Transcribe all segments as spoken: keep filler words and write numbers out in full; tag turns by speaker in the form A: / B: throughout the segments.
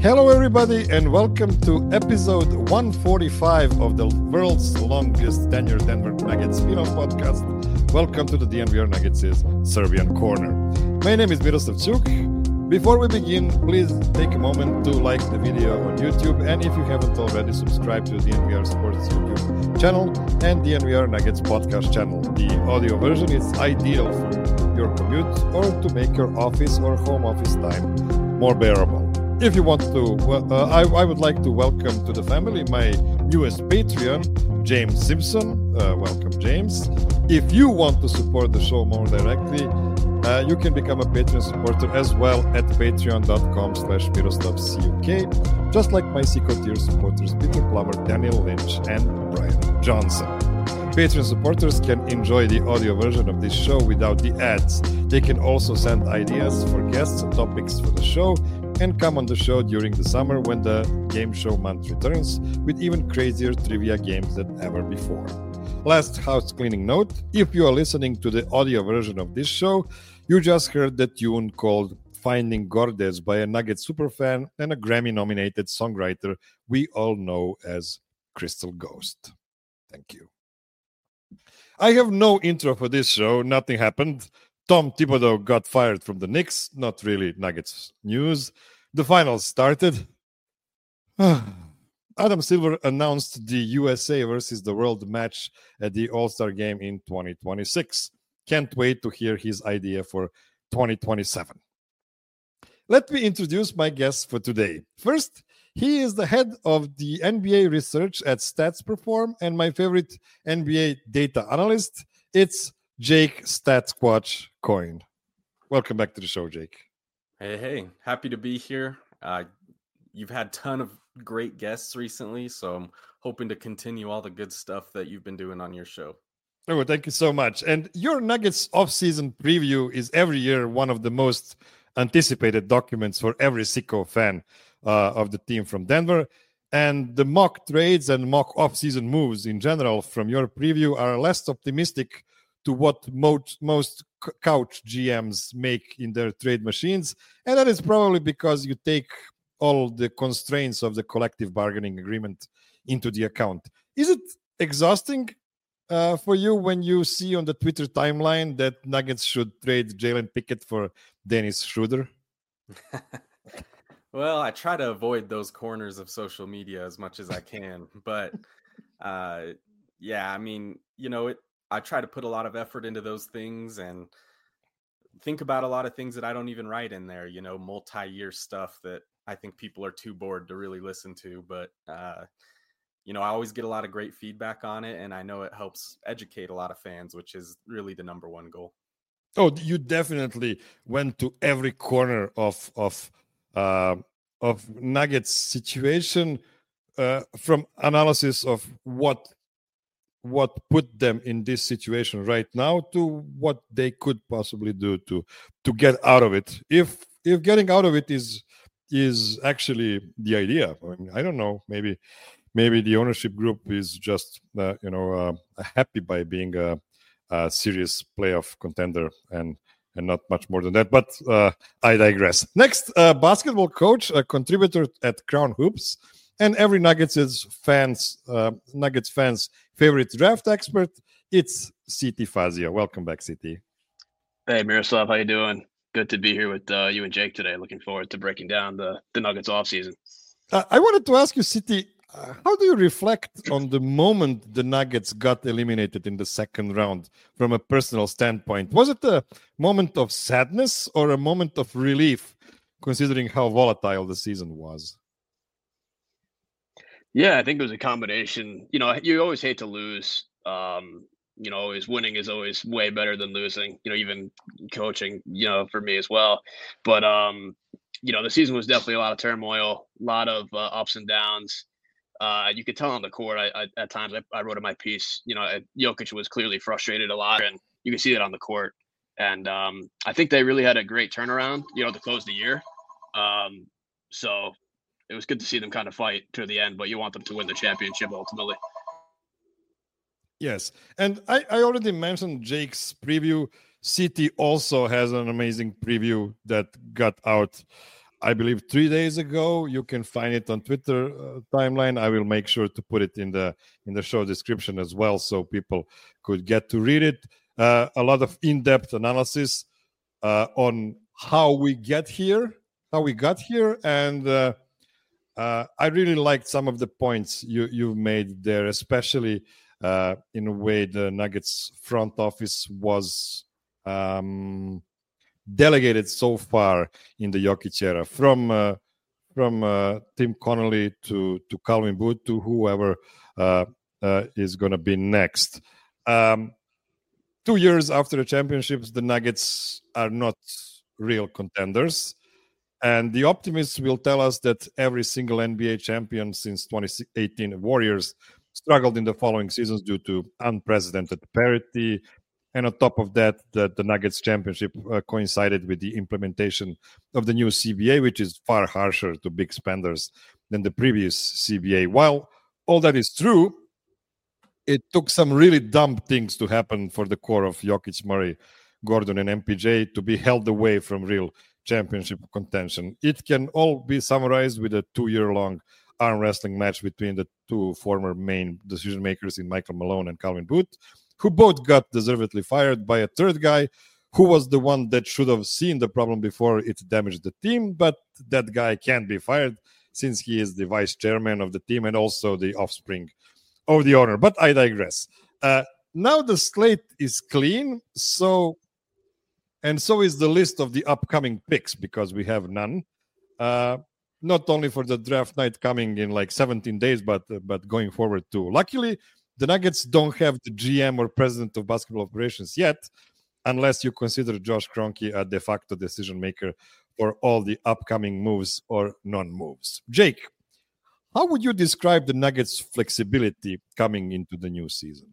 A: Hello, everybody, and welcome to episode one forty-five of the world's longest tenured Denver Nuggets spin-off podcast. Welcome to the D N V R Nuggets' Serbian Corner. My name is Miroslav Cuk. Before we begin, please take a moment to like the video on YouTube, and if you haven't already, subscribe to the D N V R Sports YouTube channel and D N V R Nuggets podcast channel. The audio version is ideal for your commute or to make your office or home office time more bearable. If you want to, uh, I, I would like to welcome to the family my newest Patreon, James Simpson. Uh, welcome, James. If you want to support the show more directly, uh, you can become a Patreon supporter as well at patreon.com slash miroslavcuk, just like my Seco tier supporters Peter Plummer, Daniel Lynch, and Brian Johnson. Patreon supporters can enjoy the audio version of this show without the ads. They can also send ideas for guests and topics for the show and come on the show during the summer when the game show month returns with even crazier trivia games than ever before. Last house cleaning note, if you are listening to the audio version of this show, you just heard the tune called Finding Gordes by a Nuggets superfan and a Grammy-nominated songwriter we all know as Crystal Ghost. Thank you. I have no intro for this show. Nothing happened. Tom Thibodeau got fired from the Knicks. Not really Nuggets news. The finals started. Adam Silver announced the U S A versus the world match at the All-Star game in twenty twenty-six. Can't wait to hear his idea for twenty twenty-seven. Let me introduce my guest for today. First, he is the head of the N B A research at StatsPerform and my favorite N B A data analyst. It's Jake Statsquatch Coyne. Welcome back to the show, Jake.
B: Hey, hey. Happy to be here. Uh, you've had a ton of great guests recently, so I'm hoping to continue all the good stuff that you've been doing on your show.
A: Oh, thank you so much. And your Nuggets off-season preview is every year one of the most anticipated documents for every Seco fan uh, of the team from Denver. And the mock trades and mock off-season moves in general from your preview are less optimistic to what most, most couch G Ms make in their trade machines. And that is probably because you take all the constraints of the collective bargaining agreement into the account. Is it exhausting uh, for you when you see on the Twitter timeline that Nuggets should trade Jalen Pickett for Dennis Schroeder?
B: Well, I try to avoid those corners of social media as much as I can. But uh, yeah, I mean, you know, it, I try to put a lot of effort into those things and think about a lot of things that I don't even write in there, you know, multi-year stuff that I think people are too bored to really listen to. But, uh, you know, I always get a lot of great feedback on it, and I know it helps educate a lot of fans, which is really the number one goal.
A: Oh, you definitely went to every corner of of uh, of Nuggets situation uh, from analysis of what what put them in this situation right now to what they could possibly do to to get out of it. If if getting out of it is is actually the idea, I mean, I don't know. Maybe maybe the ownership group is just uh, you know uh, happy by being a, a serious playoff contender and and not much more than that. But uh, I digress. Next, uh, basketball coach, a contributor at Crown Hoops, and every Nuggets fans, uh, Nuggets fans' favorite draft expert, it's C T Fazia. Welcome back, C T.
C: Hey, Miroslav, how you doing? Good to be here with uh, you and Jake today. Looking forward to breaking down the, the Nuggets offseason.
A: Uh, I wanted to ask you, C T, uh, how do you reflect on the moment the Nuggets got eliminated in the second round from a personal standpoint? Was it a moment of sadness or a moment of relief, considering how volatile the season was?
C: Yeah, I think it was a combination. You know, you always hate to lose. Um, you know, always winning is always way better than losing. You know, even coaching, you know, for me as well. But, um, you know, the season was definitely a lot of turmoil, a lot of uh, ups and downs. Uh, you could tell on the court, I, I, at times, I, I wrote in my piece, you know, Jokic was clearly frustrated a lot, and you can see that on the court. And um, I think they really had a great turnaround, you know, to close the year. Um, so it was good to see them kind of fight to the end, but you want them to win the championship ultimately.
A: Yes. And I, I already mentioned Jake's preview. City also has an amazing preview that got out I believe three days ago. You can find it on Twitter uh, timeline. I will make sure to put it in the in the show description as well, so people could get to read it. Uh, a lot of in-depth analysis uh, on how we get here, how we got here, and uh, uh, I really liked some of the points you you made there, especially uh, in a way the Nuggets front office was. Um, delegated so far in the Jokic era, from uh, from uh, Tim Connolly to to Calvin Booth to whoever uh, uh, is going to be next. Um, two years after the championships, the Nuggets are not real contenders, and the optimists will tell us that every single N B A champion since twenty eighteen Warriors struggled in the following seasons due to unprecedented parity. And on top of that, the, the Nuggets championship uh, coincided with the implementation of the new C B A, which is far harsher to big spenders than the previous C B A. While all that is true, it took some really dumb things to happen for the core of Jokic, Murray, Gordon, and M P J to be held away from real championship contention. It can all be summarized with a two-year-long arm wrestling match between the two former main decision makers in Michael Malone and Calvin Booth, who both got deservedly fired by a third guy who was the one that should have seen the problem before it damaged the team. But that guy can't be fired since he is the vice chairman of the team and also the offspring of the owner. But I digress. Uh, now the slate is clean, so and so is the list of the upcoming picks, because we have none. Uh, not only for the draft night coming in like seventeen days, but uh, but going forward too. Luckily, the Nuggets don't have the G M or president of basketball operations yet, unless you consider Josh Kroenke a de facto decision maker for all the upcoming moves or non-moves. Jake, how would you describe the Nuggets' flexibility coming into the new season?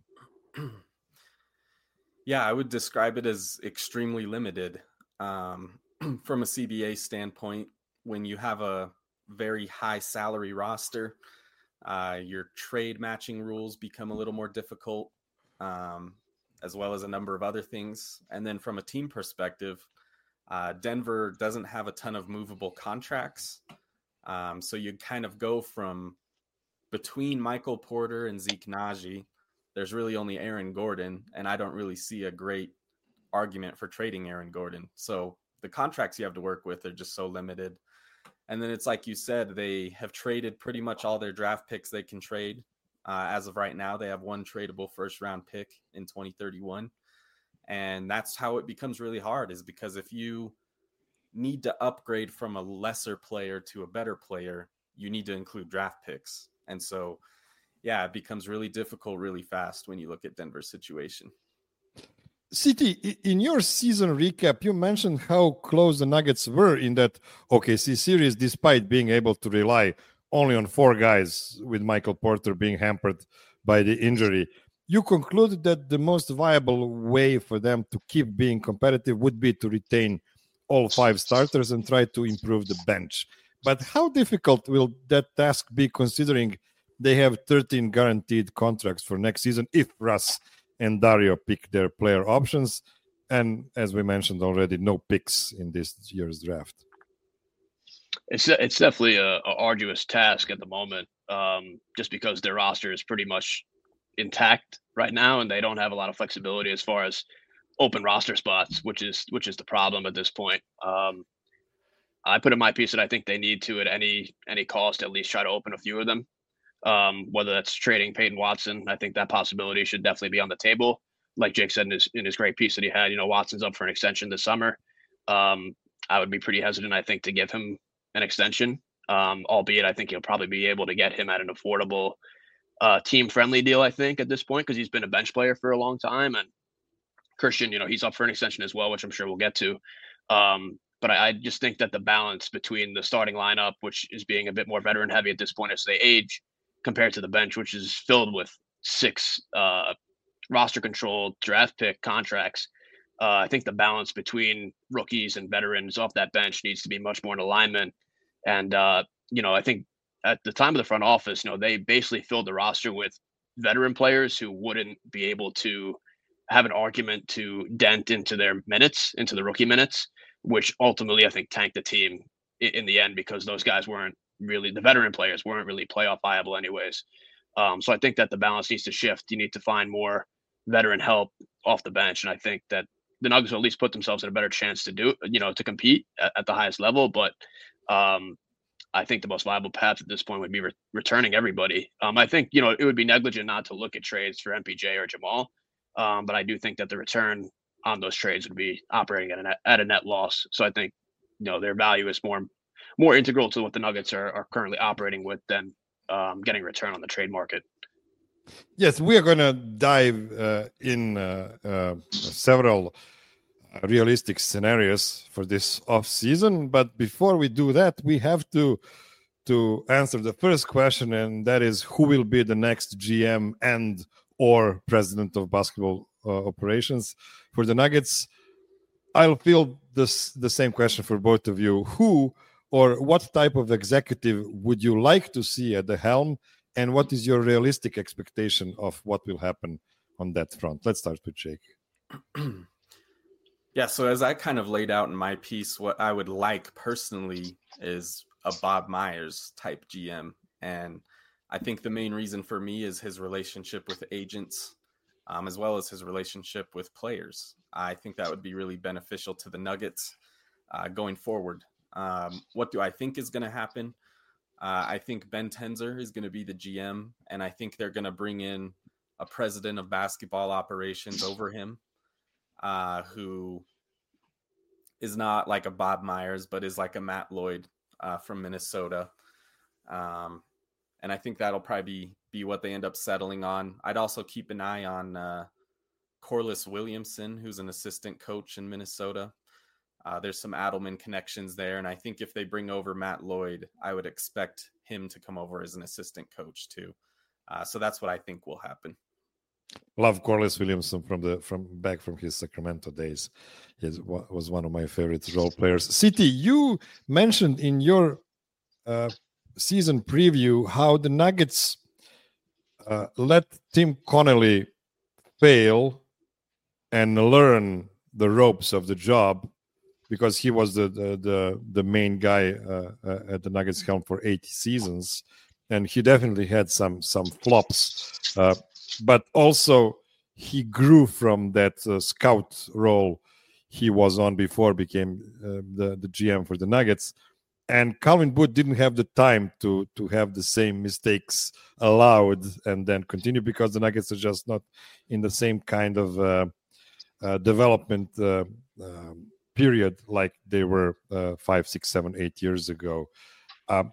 B: Yeah, I would describe it as extremely limited. Um, from a C B A standpoint, when you have a very high salary roster, Uh, your trade matching rules become a little more difficult, um, as well as a number of other things. And then from a team perspective, uh, Denver doesn't have a ton of movable contracts. Um, so you kind of go from between Michael Porter and Zeke Naji, there's really only Aaron Gordon, and I don't really see a great argument for trading Aaron Gordon. So the contracts you have to work with are just so limited. And then it's like you said, they have traded pretty much all their draft picks they can trade. Uh, as of right now, they have one tradable first round pick in twenty thirty-one. And that's how it becomes really hard, is because if you need to upgrade from a lesser player to a better player, you need to include draft picks. And so, yeah, it becomes really difficult really fast when you look at Denver's situation.
A: C T, in your season recap, you mentioned how close the Nuggets were in that O K C series, despite being able to rely only on four guys, with Michael Porter being hampered by the injury. You concluded that the most viable way for them to keep being competitive would be to retain all five starters and try to improve the bench. But how difficult will that task be, considering they have thirteen guaranteed contracts for next season if Russ and Dario pick their player options, and as we mentioned already, no picks in this year's draft?
C: It's it's definitely a, a arduous task at the moment, um, just because their roster is pretty much intact right now, and they don't have a lot of flexibility as far as open roster spots, which is which is the problem at this point. Um, I put in my piece that I think they need to, at any any cost, at least try to open a few of them. Um, whether that's trading Peyton Watson, I think that possibility should definitely be on the table. Like Jake said in his in his great piece that he had, you know, Watson's up for an extension this summer. Um, I would be pretty hesitant, I think, to give him an extension, um, albeit I think you'll probably be able to get him at an affordable, uh, team-friendly deal, I think, at this point, because he's been a bench player for a long time. And Christian, you know, he's up for an extension as well, which I'm sure we'll get to. Um, but I, I just think that the balance between the starting lineup, which is being a bit more veteran-heavy at this point as they age, compared to the bench, which is filled with six uh, roster-controlled draft pick contracts, Uh, I think the balance between rookies and veterans off that bench needs to be much more in alignment. And, uh, you know, I think at the time of the front office, you know, they basically filled the roster with veteran players who wouldn't be able to have an argument to dent into their minutes, into the rookie minutes, which ultimately I think tanked the team in, in the end because those guys weren't really the veteran players weren't really playoff viable anyways. Um, so I think that the balance needs to shift. You need to find more veteran help off the bench, and I think that the Nuggets will at least put themselves in a better chance to do, you know, to compete at, at the highest level. But um, I think the most viable path at this point would be re- returning everybody. Um, I think, you know, it would be negligent not to look at trades for M P J or Jamal. Um, but I do think that the return on those trades would be operating at a net, at a net loss. So I think, you know, their value is more more integral to what the Nuggets are, are currently operating with than um, getting return on the trade market.
A: Yes, we are going to dive uh, in uh, uh, several realistic scenarios for this off season. But before we do that, we have to to answer the first question, and that is who will be the next G M and or president of basketball uh, operations for the Nuggets. I'll field this the same question for both of you. Who or what type of executive would you like to see at the helm, and what is your realistic expectation of what will happen on that front? Let's start with Jake.
B: Yeah, so as I kind of laid out in my piece, what I would like personally is a Bob Myers type G M. And I think the main reason for me is his relationship with agents, um, as well as his relationship with players. I think that would be really beneficial to the Nuggets uh, going forward. Um, what do I think is going to happen? Uh, I think Ben Tenzer is going to be the G M, and I think they're going to bring in a president of basketball operations over him, uh, who is not like a Bob Myers, but is like a Matt Lloyd uh, from Minnesota. Um, and I think that'll probably be, be what they end up settling on. I'd also keep an eye on uh, Corliss Williamson, who's an assistant coach in Minnesota. Uh, there's some Adelman connections there. And I think if they bring over Matt Lloyd, I would expect him to come over as an assistant coach too. Uh, so that's what I think will happen.
A: Love Corliss Williamson from the from back from his Sacramento days. He was one of my favorite role players. City, you mentioned in your uh, season preview how the Nuggets uh, let Tim Connelly fail and learn the ropes of the job, because he was the the the, the main guy uh, uh, at the Nuggets helm for eighty seasons, and he definitely had some some flops, uh, but also he grew from that uh, scout role he was on before became uh, the the G M for the Nuggets. And Calvin Booth didn't have the time to to have the same mistakes allowed and then continue, because the Nuggets are just not in the same kind of uh, uh, development uh, um, period like they were uh, five, six, seven, eight years ago. Um,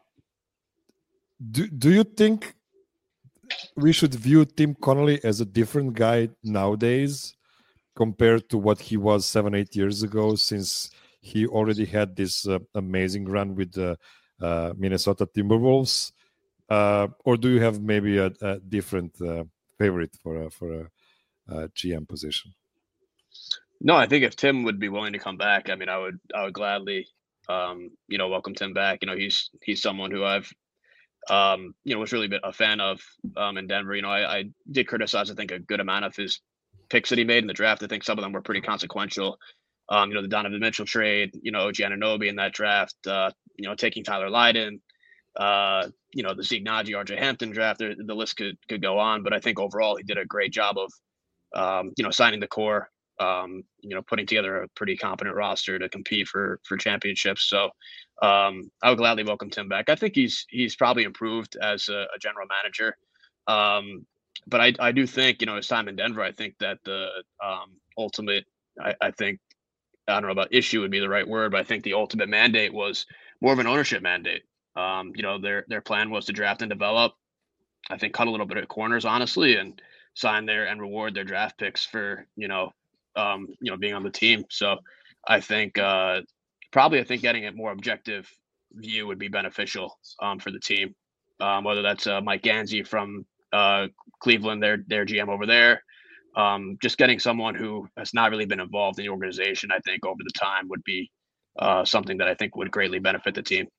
A: do do you think we should view Tim Connelly as a different guy nowadays compared to what he was seven, eight years ago, since he already had this uh, amazing run with the uh, Minnesota Timberwolves? Uh, or do you have maybe a, a different uh, favorite for a, for a, a G M position?
C: No, I think if Tim would be willing to come back, I mean, I would, I would gladly, um, you know, welcome Tim back. You know, he's he's someone who I've, um, you know, was really a fan of um, in Denver. You know, I, I did criticize, I think, a good amount of his picks that he made in the draft. I think some of them were pretty consequential. Um, you know, the Donovan Mitchell trade, you know, O G Anunoby in that draft, uh, you know, taking Tyler Lydon, uh, you know, the Zeke Naji, R J Hampton draft, the, the list could, could go on. But I think overall he did a great job of, um, you know, signing the core, um, you know, putting together a pretty competent roster to compete for, for championships. So um, I would gladly welcome Tim back. I think he's, he's probably improved as a, a general manager. Um, but I, I do think, you know, his time in Denver, I think that the um, ultimate, I, I think, I don't know about issue would be the right word, but I think the ultimate mandate was more of an ownership mandate. Um, you know, their their plan was to draft and develop, I think, cut a little bit at corners, honestly, and sign their and reward their draft picks for, you know, um, you know, being on the team. So I think uh, probably I think getting a more objective view would be beneficial um, for the team. Um, whether that's uh, Mike Gansey from uh, Cleveland, their their G M over there. Um, just getting someone who has not really been involved in the organization, I think, over the time would be uh, something that I think would greatly benefit the team.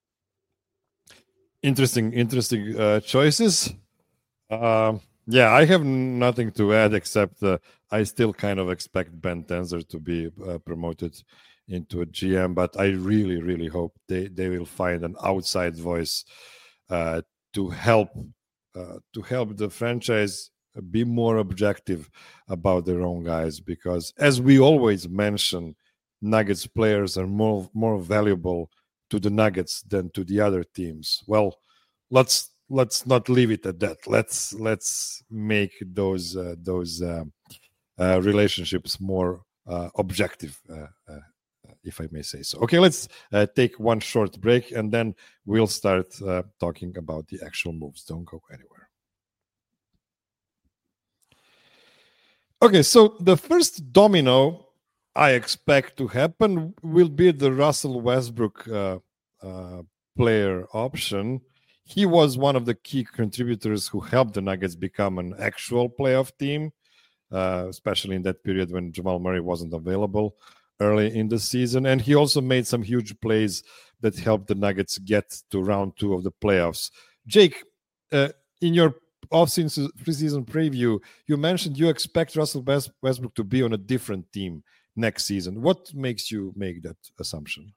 A: Interesting, interesting uh, choices. Uh, yeah, I have nothing to add except uh, I still kind of expect Ben Tenzer to be uh, promoted into a G M. But I really, really hope they, they will find an outside voice uh, to help uh, to help the franchise be more objective about their own guys. Because as we always mention, Nuggets players are more more valuable to the Nuggets than to the other teams. Well, let's let's not leave it at that. Let's let's make those uh, those uh, uh, relationships more uh, objective, uh, uh, if I may say so. Okay, let's uh, take one short break, and then we'll start uh, talking about the actual moves. Don't go anywhere. Okay, so the first domino I expect to happen will be the Russell Westbrook uh, uh, player option. He was one of the key contributors who helped the Nuggets become an actual playoff team, uh, especially in that period when Jamal Murray wasn't available early in the season. And he also made some huge plays that helped the Nuggets get to round two of the playoffs. Jake, uh, in your off-season preseason preview, you mentioned you expect Russell Westbrook to be on a different team next season. What makes you make that assumption?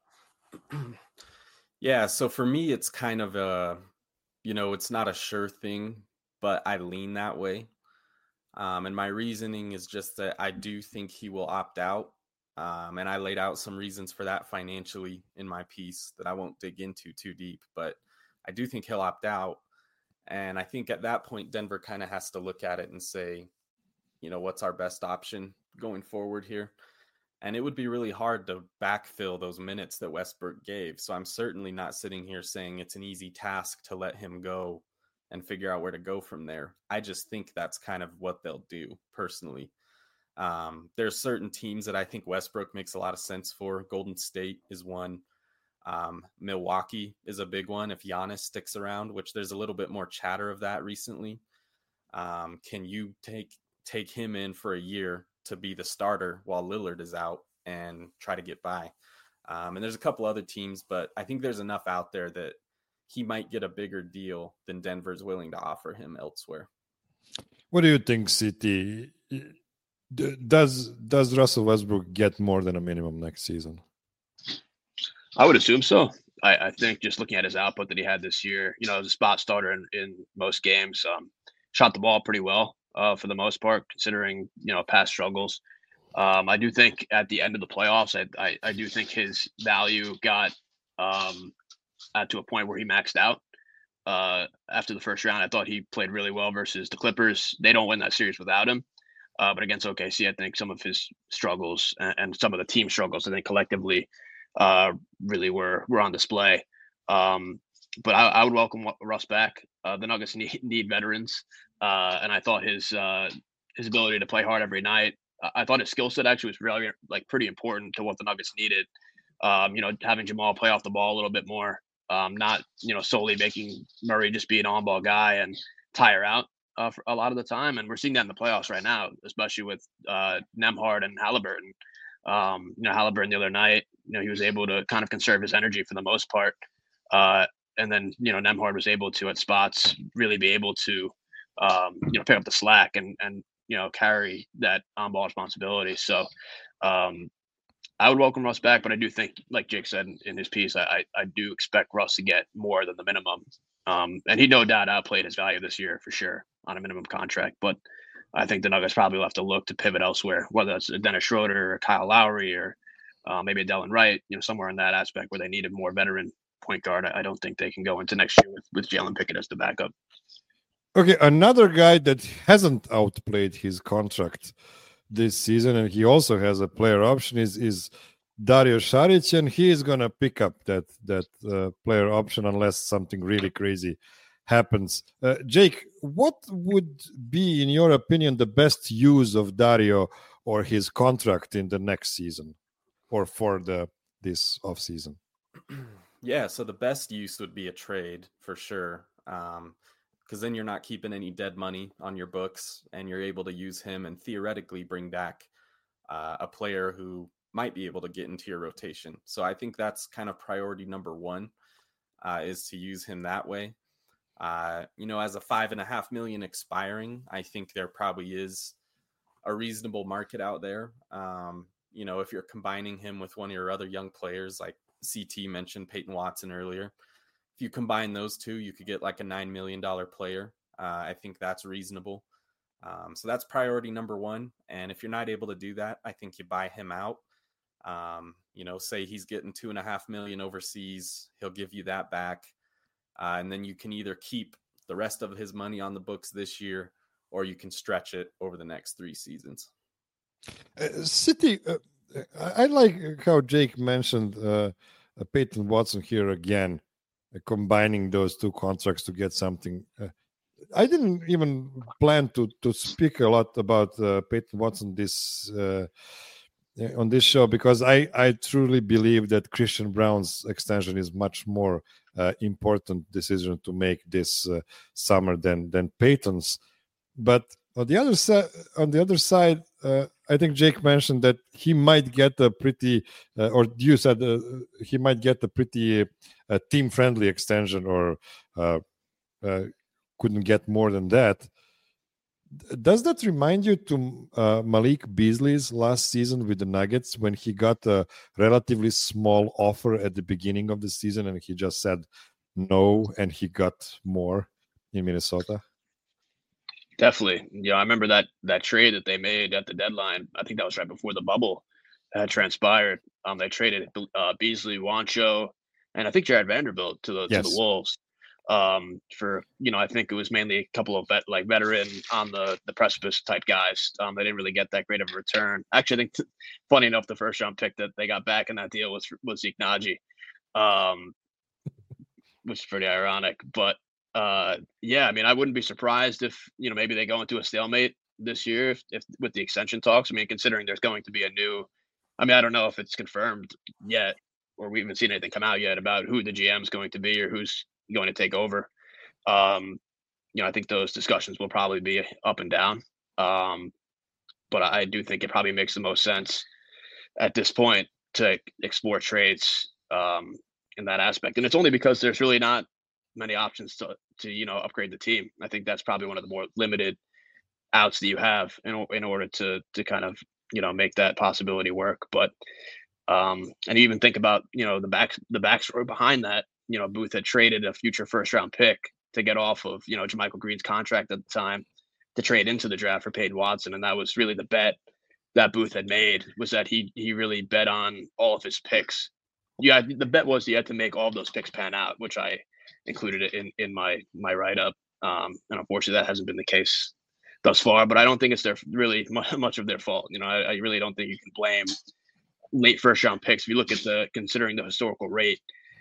B: Yeah, so for me, it's kind of a, you know, it's not a sure thing, but I lean that way. Um, and my reasoning is just that I do think he will opt out. Um, and I laid out some reasons for that financially in my piece that I won't dig into too deep, but I do think he'll opt out. And I think at that point, Denver kind of has to look at it and say, you know, what's our best option going forward here? And it would be really hard to backfill those minutes that Westbrook gave. So I'm certainly not sitting here saying it's an easy task to let him go and figure out where to go from there. I just think that's kind of what they'll do personally. Um, there's certain teams that I think Westbrook makes a lot of sense for. Golden State is one. Um, Milwaukee is a big one if Giannis sticks around, which there's a little bit more chatter of that recently. Um, can you take take him in for a year to be the starter while Lillard is out and try to get by? Um, and there's a couple other teams, but I think there's enough out there that he might get a bigger deal than Denver's willing to offer him elsewhere.
A: What do you think, C T? Does does Russell Westbrook get more than a minimum next season?
C: I would assume so. I, I think just looking at his output that he had this year, you know, as a spot starter in, in most games, um, shot the ball pretty well uh, for the most part, considering, you know, past struggles. Um, I do think at the end of the playoffs, I, I, I do think his value got um, uh, to a point where he maxed out uh, after the first round. I thought he played really well versus the Clippers. They don't win that series without him. Uh, but against O K C, I think some of his struggles and, and some of the team struggles, I think collectively uh, really were were on display. Um, but I, I would welcome Russ back. Uh, the Nuggets need, need veterans. Uh, and I thought his uh, his ability to play hard every night, I thought his skill set actually was really like pretty important to what the Nuggets needed. Um, you know, having Jamal play off the ball a little bit more, um, not, you know, solely making Murray just be an on-ball guy and tire out uh, for a lot of the time. And we're seeing that in the playoffs right now, especially with uh, Nembhard and Halliburton. Um, you know, Halliburton the other night, you know, he was able to kind of conserve his energy for the most part. Uh, and then, you know, Nembhard was able to, at spots, really be able to, um, you know, pick up the slack and, and, you know, carry that on-ball responsibility. So um, I would welcome Russ back, but I do think, like Jake said in, in his piece, I, I, I do expect Russ to get more than the minimum. Um, and he no doubt outplayed his value this year for sure on a minimum contract. But I think the Nuggets probably will have to look to pivot elsewhere, whether it's Dennis Schroeder or Kyle Lowry or uh, maybe a Delon Wright, you know, somewhere in that aspect where they need a more veteran point guard. I, I don't think they can go into next year with, with Jalen Pickett as the backup.
A: Okay, another guy that hasn't outplayed his contract this season, and he also has a player option, is is Dario Saric, and he is gonna pick up that that uh, player option unless something really crazy happens. Uh, Jake, what would be, in your opinion, the best use of Dario or his contract in the next season, or for the this off season?
B: Yeah, so the best use would be a trade for sure. Um, because then you're not keeping any dead money on your books and you're able to use him and theoretically bring back uh, a player who might be able to get into your rotation. So I think that's kind of priority number one, uh, is to use him that way. Uh, you know, as a five and a half million expiring, I think there probably is a reasonable market out there. Um, you know, if you're combining him with one of your other young players, like C T mentioned Peyton Watson earlier, if you combine those two, you could get like a nine million dollars player. Uh, I think that's reasonable. Um, so that's priority number one. And if you're not able to do that, I think you buy him out. Um, you know, say he's getting two and a half million overseas, he'll give you that back. Uh, and then you can either keep the rest of his money on the books this year, or you can stretch it over the next three seasons.
A: Uh, City, uh, I like how Jake mentioned uh, uh, Peyton Watson here again, uh, combining those two contracts to get something. Uh, I didn't even plan to to speak a lot about uh, Peyton Watson this uh, on this show, because I, I truly believe that Christian Braun's extension is much more uh, important decision to make this uh, summer than than Peyton's. But on the other side, on the other side, uh, I think Jake mentioned that he might get a pretty, uh, or you said uh, he might get a pretty uh, team-friendly extension, or uh, uh, couldn't get more than that. Does that remind you to uh, Malik Beasley's last season with the Nuggets, when he got a relatively small offer at the beginning of the season and he just said no and he got more in Minnesota?
C: Definitely. Yeah, I remember that that trade that they made at the deadline. I think that was right before the bubble had transpired. Um, they traded uh, Beasley, Juancho, and I think Jared Vanderbilt to the yes. to the Wolves. Um, for, you know, I think it was mainly a couple of vet, like veteran on the, the precipice type guys. Um, they didn't really get that great of a return. Actually, I think t- funny enough, the first round pick that they got back in that deal was, was Zeke Naji, um, which is pretty ironic, but uh, yeah, I mean, I wouldn't be surprised if, you know, maybe they go into a stalemate this year if, if with the extension talks. I mean, considering there's going to be a new, I mean, I don't know if it's confirmed yet, or we haven't seen anything come out yet about who the G M is going to be or who's going to take over. Um, you know, I think those discussions will probably be up and down. Um, but I do think it probably makes the most sense at this point to explore trades um, in that aspect. And it's only because there's really not many options to, to, you know, upgrade the team. I think that's probably one of the more limited outs that you have in, in order to, to kind of, you know, make that possibility work. But, um, and even think about, you know, the back, the backstory behind that. You know, Booth had traded a future first round pick to get off of, you know, JaMychal Green's contract at the time to trade into the draft for Peyton Watson. And that was really the bet that Booth had made, was that he, he really bet on all of his picks. Yeah. The bet was he had to make all of those picks pan out, which I included it in, in my, my write-up. Um, and unfortunately that hasn't been the case thus far, but I don't think it's their really much of their fault. You know, I, I really don't think you can blame late first round picks. If you look at the, considering the historical rate,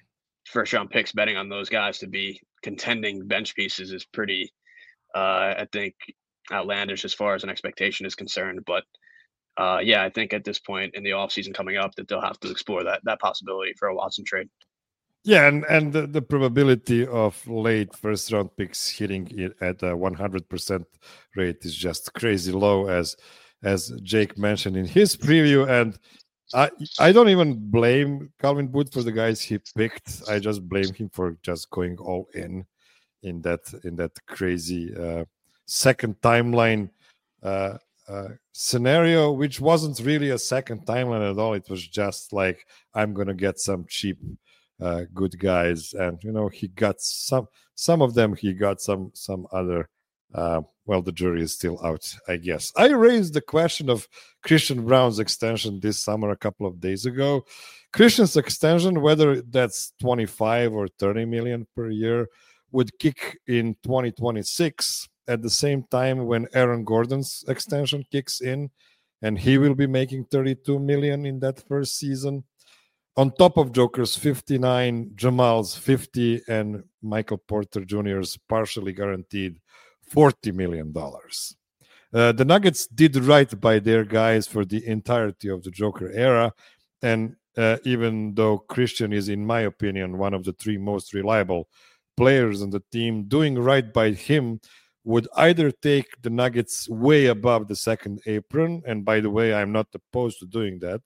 C: first round picks betting on those guys to be contending bench pieces is pretty, uh, I think, outlandish as far as an expectation is concerned. But uh, yeah, I think at this point in the offseason coming up that they'll have to explore that that possibility for a Watson trade.
A: Yeah, and, and the, the probability of late first round picks hitting it at a one hundred percent rate is just crazy low, as as Jake mentioned in his preview. And I I don't even blame Calvin Booth for the guys he picked. I just blame him for just going all in in that in that crazy uh, second timeline uh, uh, scenario, which wasn't really a second timeline at all. It was just like, I'm gonna get some cheap uh, good guys, and you know he got some some of them. He got some some other. Uh, well, the jury is still out, I guess. I raised the question of Christian Braun's extension this summer a couple of days ago. Christian's extension, whether that's twenty-five or thirty million per year, would kick in twenty twenty-six at the same time when Aaron Gordon's extension kicks in, and he will be making thirty-two million in that first season. On top of Joker's fifty-nine, Jamal's fifty, and Michael Porter Junior's partially guaranteed forty million dollars. Uh, the Nuggets did right by their guys for the entirety of the Joker era. And uh, even though Christian is, in my opinion, one of the three most reliable players on the team, doing right by him would either take the Nuggets way above the second apron, and by the way, I'm not opposed to doing that,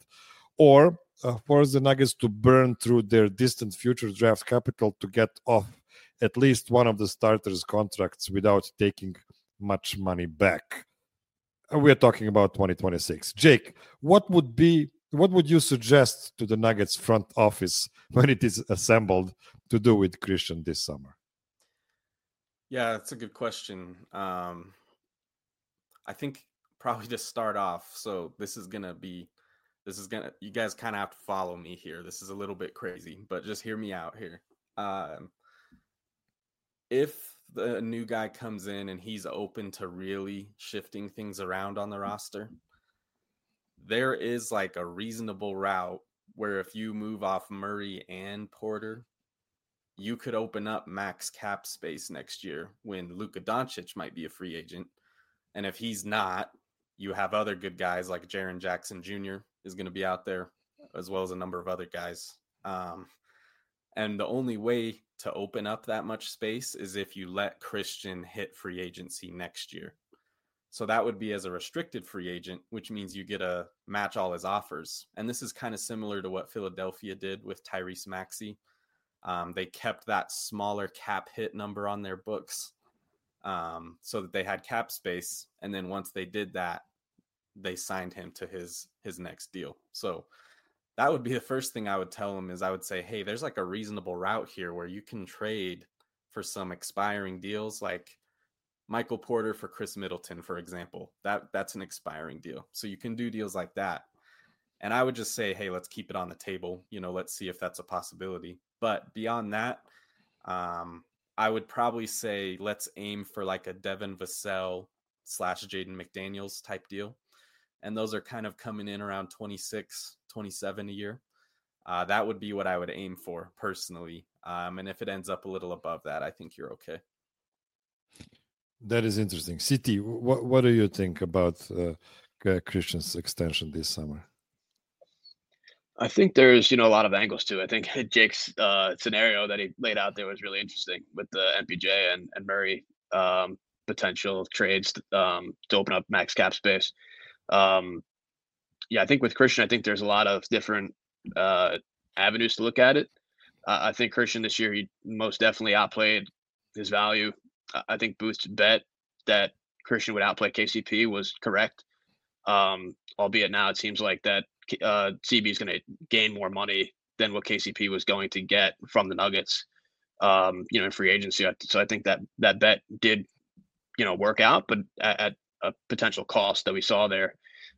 A: or uh, force the Nuggets to burn through their distant future draft capital to get off at least one of the starters' contracts without taking much money back. We're talking about twenty twenty-six. Jake, what would be what would you suggest to the Nuggets front office when it is assembled to do with Christian this summer?
B: Yeah, that's a good question. Um, I think probably to start off, so this is gonna be, this is gonna, you guys kind of have to follow me here. This is a little bit crazy, but just hear me out here. Um, if the new guy comes in and he's open to really shifting things around on the roster, there is like a reasonable route where if you move off Murray and Porter, you could open up max cap space next year when Luka Doncic might be a free agent. And if he's not, you have other good guys like Jaren Jackson Junior is going to be out there, as well as a number of other guys. Um, and the only way to open up that much space is if you let Christian hit free agency next year. So that would be as a restricted free agent, which means you get to match all his offers. And this is kind of similar to what Philadelphia did with Tyrese Maxey. Um, they kept that smaller cap hit number on their books um, so that they had cap space. And then once they did that, they signed him to his his next deal. So that would be the first thing I would tell him is I would say, hey, there's like a reasonable route here where you can trade for some expiring deals like Michael Porter for Chris Middleton, for example. That that's an expiring deal. So you can do deals like that. And I would just say, hey, let's keep it on the table. You know, let's see if that's a possibility. But beyond that, um, I would probably say let's aim for like a Devin Vassell slash Jaden McDaniels type deal. And those are kind of coming in around twenty-six, twenty-seven a year. Uh, that would be what I would aim for personally. Um, and if it ends up a little above that, I think you're okay.
A: That is interesting. C T, what, what do you think about uh, Christian's extension this summer?
C: I think there's, you know, a lot of angles to it. I think Jake's uh, scenario that he laid out there was really interesting with the M P J and, and Murray um, potential trades um, to open up max cap space. Um, yeah, I think with Christian, I think there's a lot of different uh, avenues to look at it. Uh, I think Christian this year, he most definitely outplayed his value. I think Booth's bet that Christian would outplay K C P was correct. Um, albeit now it seems like that uh, C B is going to gain more money than what K C P was going to get from the Nuggets, um, you know, in free agency. So I think that that bet did, you know, work out, but at, at a potential cost that we saw there.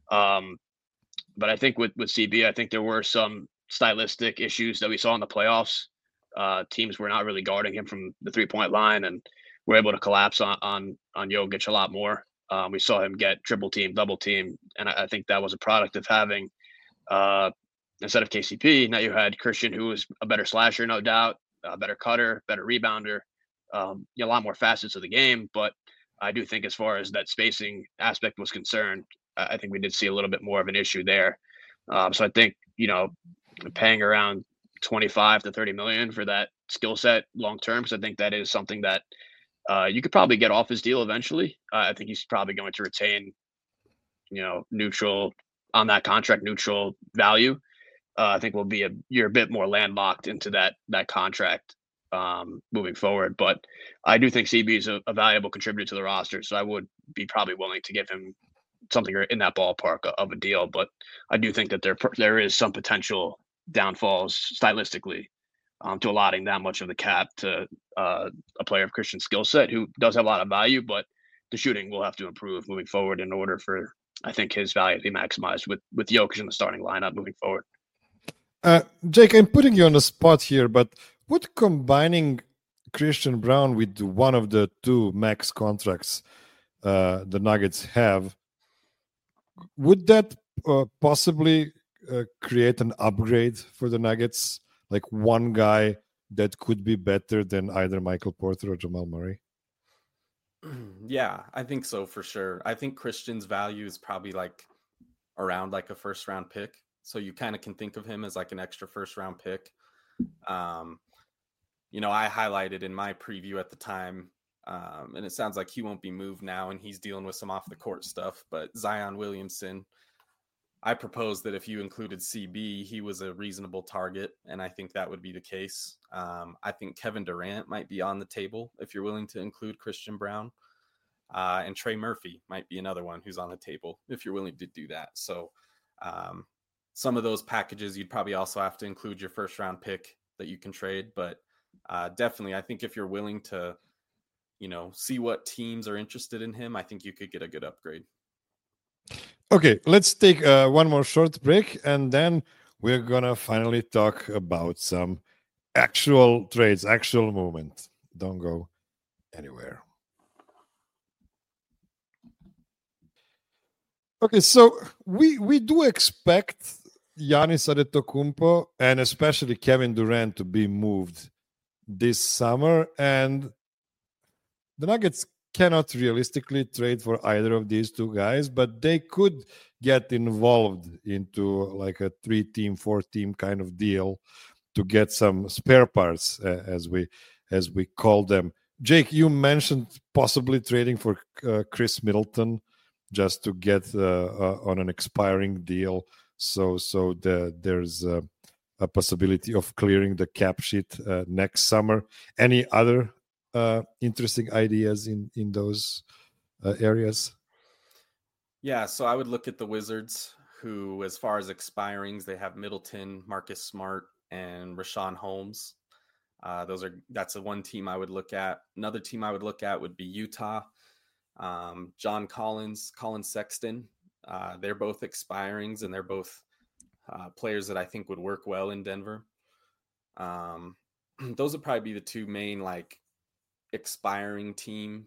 C: Um, but I think with, with C B, I think there were some stylistic issues that we saw in the playoffs. Uh, teams were not really guarding him from the three-point line, and were able to collapse on on, on Jokic a lot more. Um, we saw him get triple team, double team, and I, I think that was a product of having, uh, instead of K C P, now you had Christian, who was a better slasher, no doubt, a better cutter, better rebounder, um, you know, a lot more facets of the game. But I do think as far as that spacing aspect was concerned, I think we did see a little bit more of an issue there. Um, so I think, you know, paying around twenty-five to thirty million for that skill set long term, because I think that is something that uh, you could probably get off his deal eventually. Uh, I think he's probably going to retain, you know, neutral on that contract, neutral value. Uh, I think we'll be a you're a bit more landlocked into that that contract um, moving forward. But I do think C B is a, a valuable contributor to the roster, so I would be probably willing to give him something in that ballpark of a deal. But I do think that there there is some potential downfalls stylistically um, to allotting that much of the cap to uh, a player of Christian skill set who does have a lot of value, but the shooting will have to improve moving forward in order for, I think, his value to be maximized with, with Jokic in the starting lineup moving forward.
A: Uh, Jake, I'm putting you on the spot here, but would combining Christian Braun with one of the two max contracts uh, the Nuggets have, would that uh, possibly uh, create an upgrade for the Nuggets? Like one guy that could be better than either Michael Porter or Jamal Murray?
B: Yeah, I think so for sure. I think Christian's value is probably like around like a first round pick. So you kind of can think of him as like an extra first round pick. Um, you know, I highlighted in my preview at the time, um, and it sounds like he won't be moved now and he's dealing with some off the court stuff, but Zion Williamson, I proposed that if you included C B, he was a reasonable target, and I think that would be the case. Um, I think Kevin Durant might be on the table if you're willing to include Christian Braun. Uh, and Trey Murphy might be another one who's on the table if you're willing to do that. So um, some of those packages, you'd probably also have to include your first round pick that you can trade. But uh, definitely, I think if you're willing to, you know, see what teams are interested in him, I think you could get a good upgrade.
A: Okay, let's take uh, one more short break, and then we're gonna finally talk about some actual trades, actual movement. Don't go anywhere. Okay, so we we do expect Giannis Antetokounmpo and especially Kevin Durant to be moved this summer, and the Nuggets cannot realistically trade for either of these two guys, but they could get involved into like a three-team, four-team kind of deal to get some spare parts, uh, as we as we call them. Jake, you mentioned possibly trading for uh, Chris Middleton just to get uh, uh, on an expiring deal, so so the, there's uh, a possibility of clearing the cap sheet uh, next summer. Any other uh, interesting ideas in in those uh, areas?
B: Yeah, so I would look at the Wizards, who, as far as expirings, they have Middleton, Marcus Smart, and Rashawn Holmes. Uh, those are that's the one team I would look at. Another team I would look at would be Utah. Um, John Collins, Colin Sexton. Uh, they're both expirings, and they're both uh, players that I think would work well in Denver. Um, those would probably be the two main like expiring team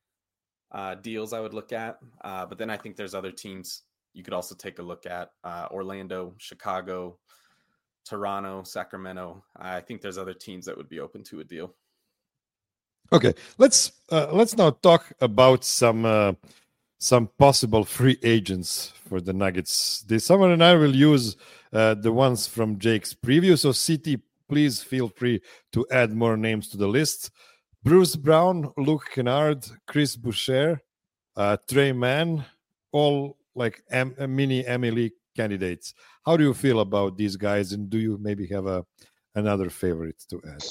B: uh, deals I would look at. Uh, but then I think there's other teams you could also take a look at: uh, Orlando, Chicago, Toronto, Sacramento. I think there's other teams that would be open to a deal.
A: Okay, let's uh, let's now talk about some uh, some possible free agents for the Nuggets this summer, and I will use uh, the ones from Jake's preview. So, C T, please feel free to add more names to the list: Bruce Brown, Luke Kennard, Chris Boucher, uh, Trey Mann, all like M- mini M L E candidates. How do you feel about these guys, and do you maybe have a another favorite to add?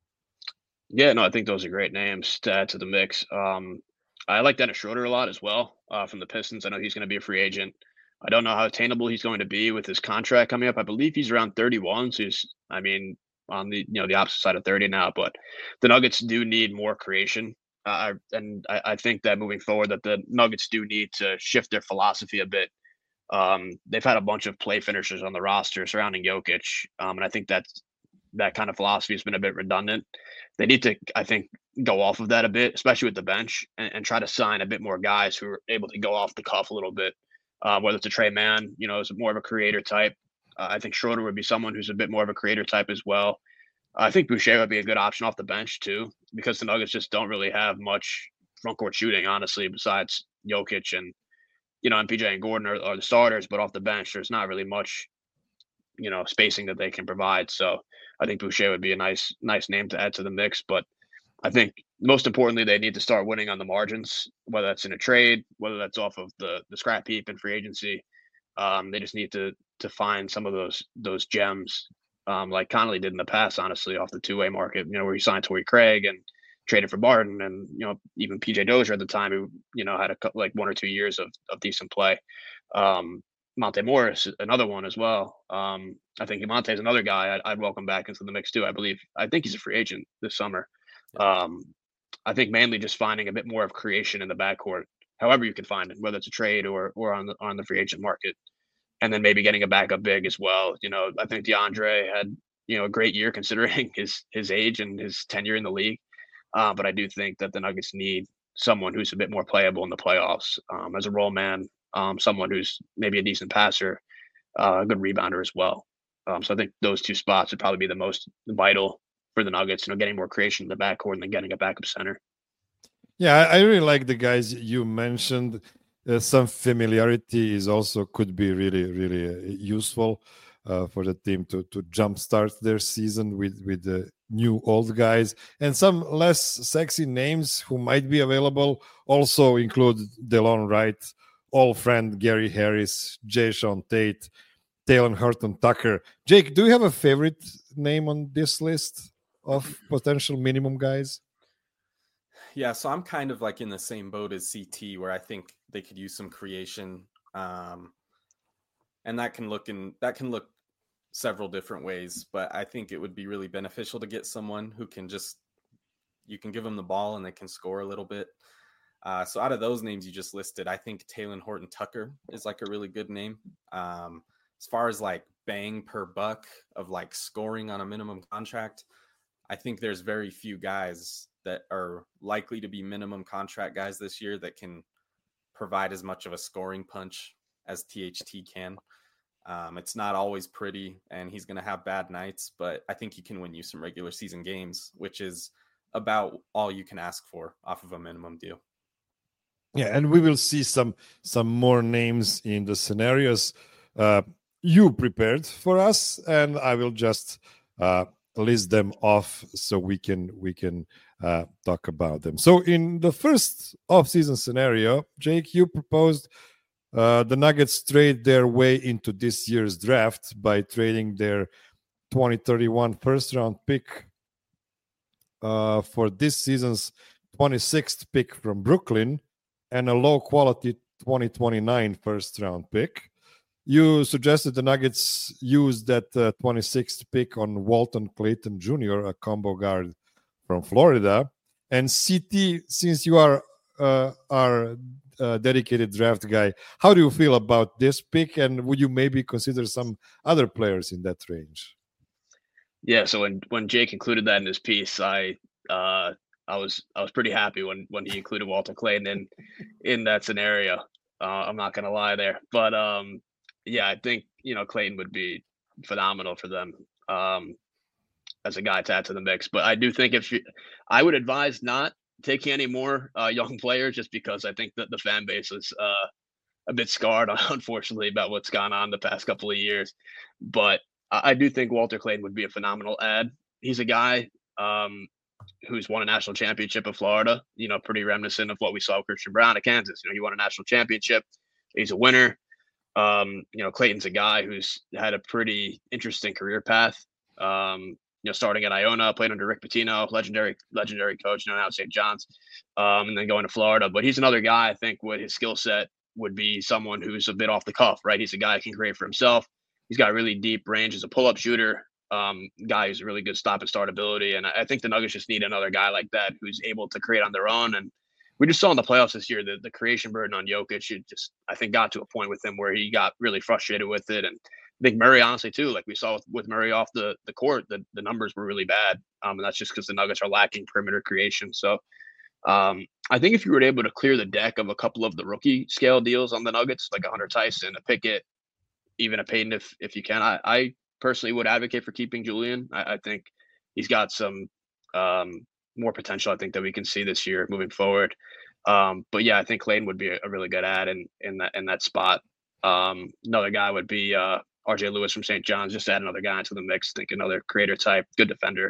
C: Yeah, no, I think those are great names to add to the mix. Um, I like Dennis Schroeder a lot as well uh, from the Pistons. I know he's going to be a free agent. I don't know how attainable he's going to be with his contract coming up. I believe he's around thirty-one. So he's, I mean, on the you know the opposite side of thirty now. But the Nuggets do need more creation, uh, and I, I think that moving forward, that the Nuggets do need to shift their philosophy a bit. Um, they've had a bunch of play finishers on the roster surrounding Jokic, um, and I think that's that kind of philosophy has been a bit redundant. They need to, I think, go off of that a bit, especially with the bench, and, and try to sign a bit more guys who are able to go off the cuff a little bit. Uh, whether it's a Trey Mann, you know, is more of a creator type. Uh, I think Schroeder would be someone who's a bit more of a creator type as well. I think Boucher would be a good option off the bench too, because the Nuggets just don't really have much front court shooting, honestly, besides Jokic and you know, and P J and Gordon are, are the starters, but off the bench, there's not really much, you know, spacing that they can provide. So I think Boucher would be a nice, nice name to add to the mix. But I think most importantly, they need to start winning on the margins, whether that's in a trade, whether that's off of the the scrap heap and free agency. Um, they just need to to find some of those those gems, um, like Connolly did in the past, honestly, off the two way market. You know, where he signed Torrey Craig and traded for Barton, and you know even P J Dozier at the time, who you know had a couple, like one or two years of of decent play. Um, Monte Morris, another one as well. Um, I think Monte is another guy I'd, I'd welcome back into the mix too. I believe I think he's a free agent this summer. Um, I think mainly just finding a bit more of creation in the backcourt, however you can find it, whether it's a trade or or on the on the free agent market, and then maybe getting a backup big as well. You know, I think DeAndre had you know a great year considering his his age and his tenure in the league. Uh, but I do think that the Nuggets need someone who's a bit more playable in the playoffs um, as a role man, um, someone who's maybe a decent passer, uh, a good rebounder as well. Um, so I think those two spots would probably be the most vital for the Nuggets, you know, getting more creation in the backcourt and then getting a backup center.
A: Yeah, I really like the guys you mentioned. Uh, some familiarity is also could be really, really uh, useful uh, for the team to to jumpstart their season with with the new old guys, and some less sexy names who might be available also include DeLon Wright, old friend Gary Harris, Jay Sean Tate, Taylor Horton Tucker. Jake, do you have a favorite name on this list of potential minimum guys?
B: Yeah, so I'm kind of like in the same boat as C T, where I think they could use some creation. Um, and that can look in that can look several different ways. But I think it would be really beneficial to get someone who can just you can give them the ball and they can score a little bit. Uh, so out of those names you just listed, I think Talen Horton-Tucker is like a really good name. Um, as far as like bang per buck of like scoring on a minimum contract, I think there's very few guys that are likely to be minimum contract guys this year that can provide as much of a scoring punch as T H T can. Um, it's not always pretty, and he's going to have bad nights, but I think he can win you some regular season games, which is about all you can ask for off of a minimum deal.
A: Yeah, and we will see some some more names in the scenarios uh, you prepared for us, and I will just uh, list them off so we can we can uh, talk about them. So in the first off-season scenario, Jake, you proposed uh, the Nuggets trade their way into this year's draft by trading their twenty thirty-one first-round pick uh, for this season's twenty-sixth pick from Brooklyn and a low-quality twenty twenty-nine first-round pick. You suggested the Nuggets use that uh, twenty-sixth pick on Walton Clayton Junior, a combo guard from Florida. And C T, since you are uh, our uh, dedicated draft guy, how do you feel about this pick? And would you maybe consider some other players in that range?
C: Yeah, so when, when Jake included that in his piece, I uh, I was I was pretty happy when when he included Walter Clayton in in that scenario. Uh, I'm not gonna lie there, but um, yeah, I think you know Clayton would be phenomenal for them um, as a guy to add to the mix. But I do think if you, I would advise not taking any more uh, young players, just because I think that the fan base is uh, a bit scarred, unfortunately, about what's gone on the past couple of years. But I do think Walter Clayton would be a phenomenal add. He's a guy um, who's won a national championship of Florida, you know, pretty reminiscent of what we saw with Christian Brown at Kansas. You know, he won a national championship. He's a winner. Um, you know, Clayton's a guy who's had a pretty interesting career path. Um, you know, starting at Iona, played under Rick Pitino, legendary, legendary coach, you know, now at Saint John's, um, and then going to Florida. But he's another guy, I think, with his skill set would be someone who's a bit off the cuff, right? He's a guy who can create for himself. He's got really deep range as a pull-up shooter. Um, guy who's a really good stop and start ability, and I think the Nuggets just need another guy like that who's able to create on their own. And we just saw in the playoffs this year that the creation burden on Jokic, it just I think got to a point with him where he got really frustrated with it. And I think Murray, honestly, too, like we saw with, with Murray off the the court, the the numbers were really bad, um, and that's just because the Nuggets are lacking perimeter creation. So um, I think if you were able to clear the deck of a couple of the rookie scale deals on the Nuggets, like a Hunter Tyson, a Pickett, even a Payton, if if you can, I, I personally would advocate for keeping Julian. I, I think he's got some um, more potential, I think, that we can see this year moving forward. Um, but yeah, I think Clayton would be a, a really good add in in that in that spot. Um, another guy would be uh, R J Lewis from Saint John's. Just add another guy into the mix. I think another creator type, good defender.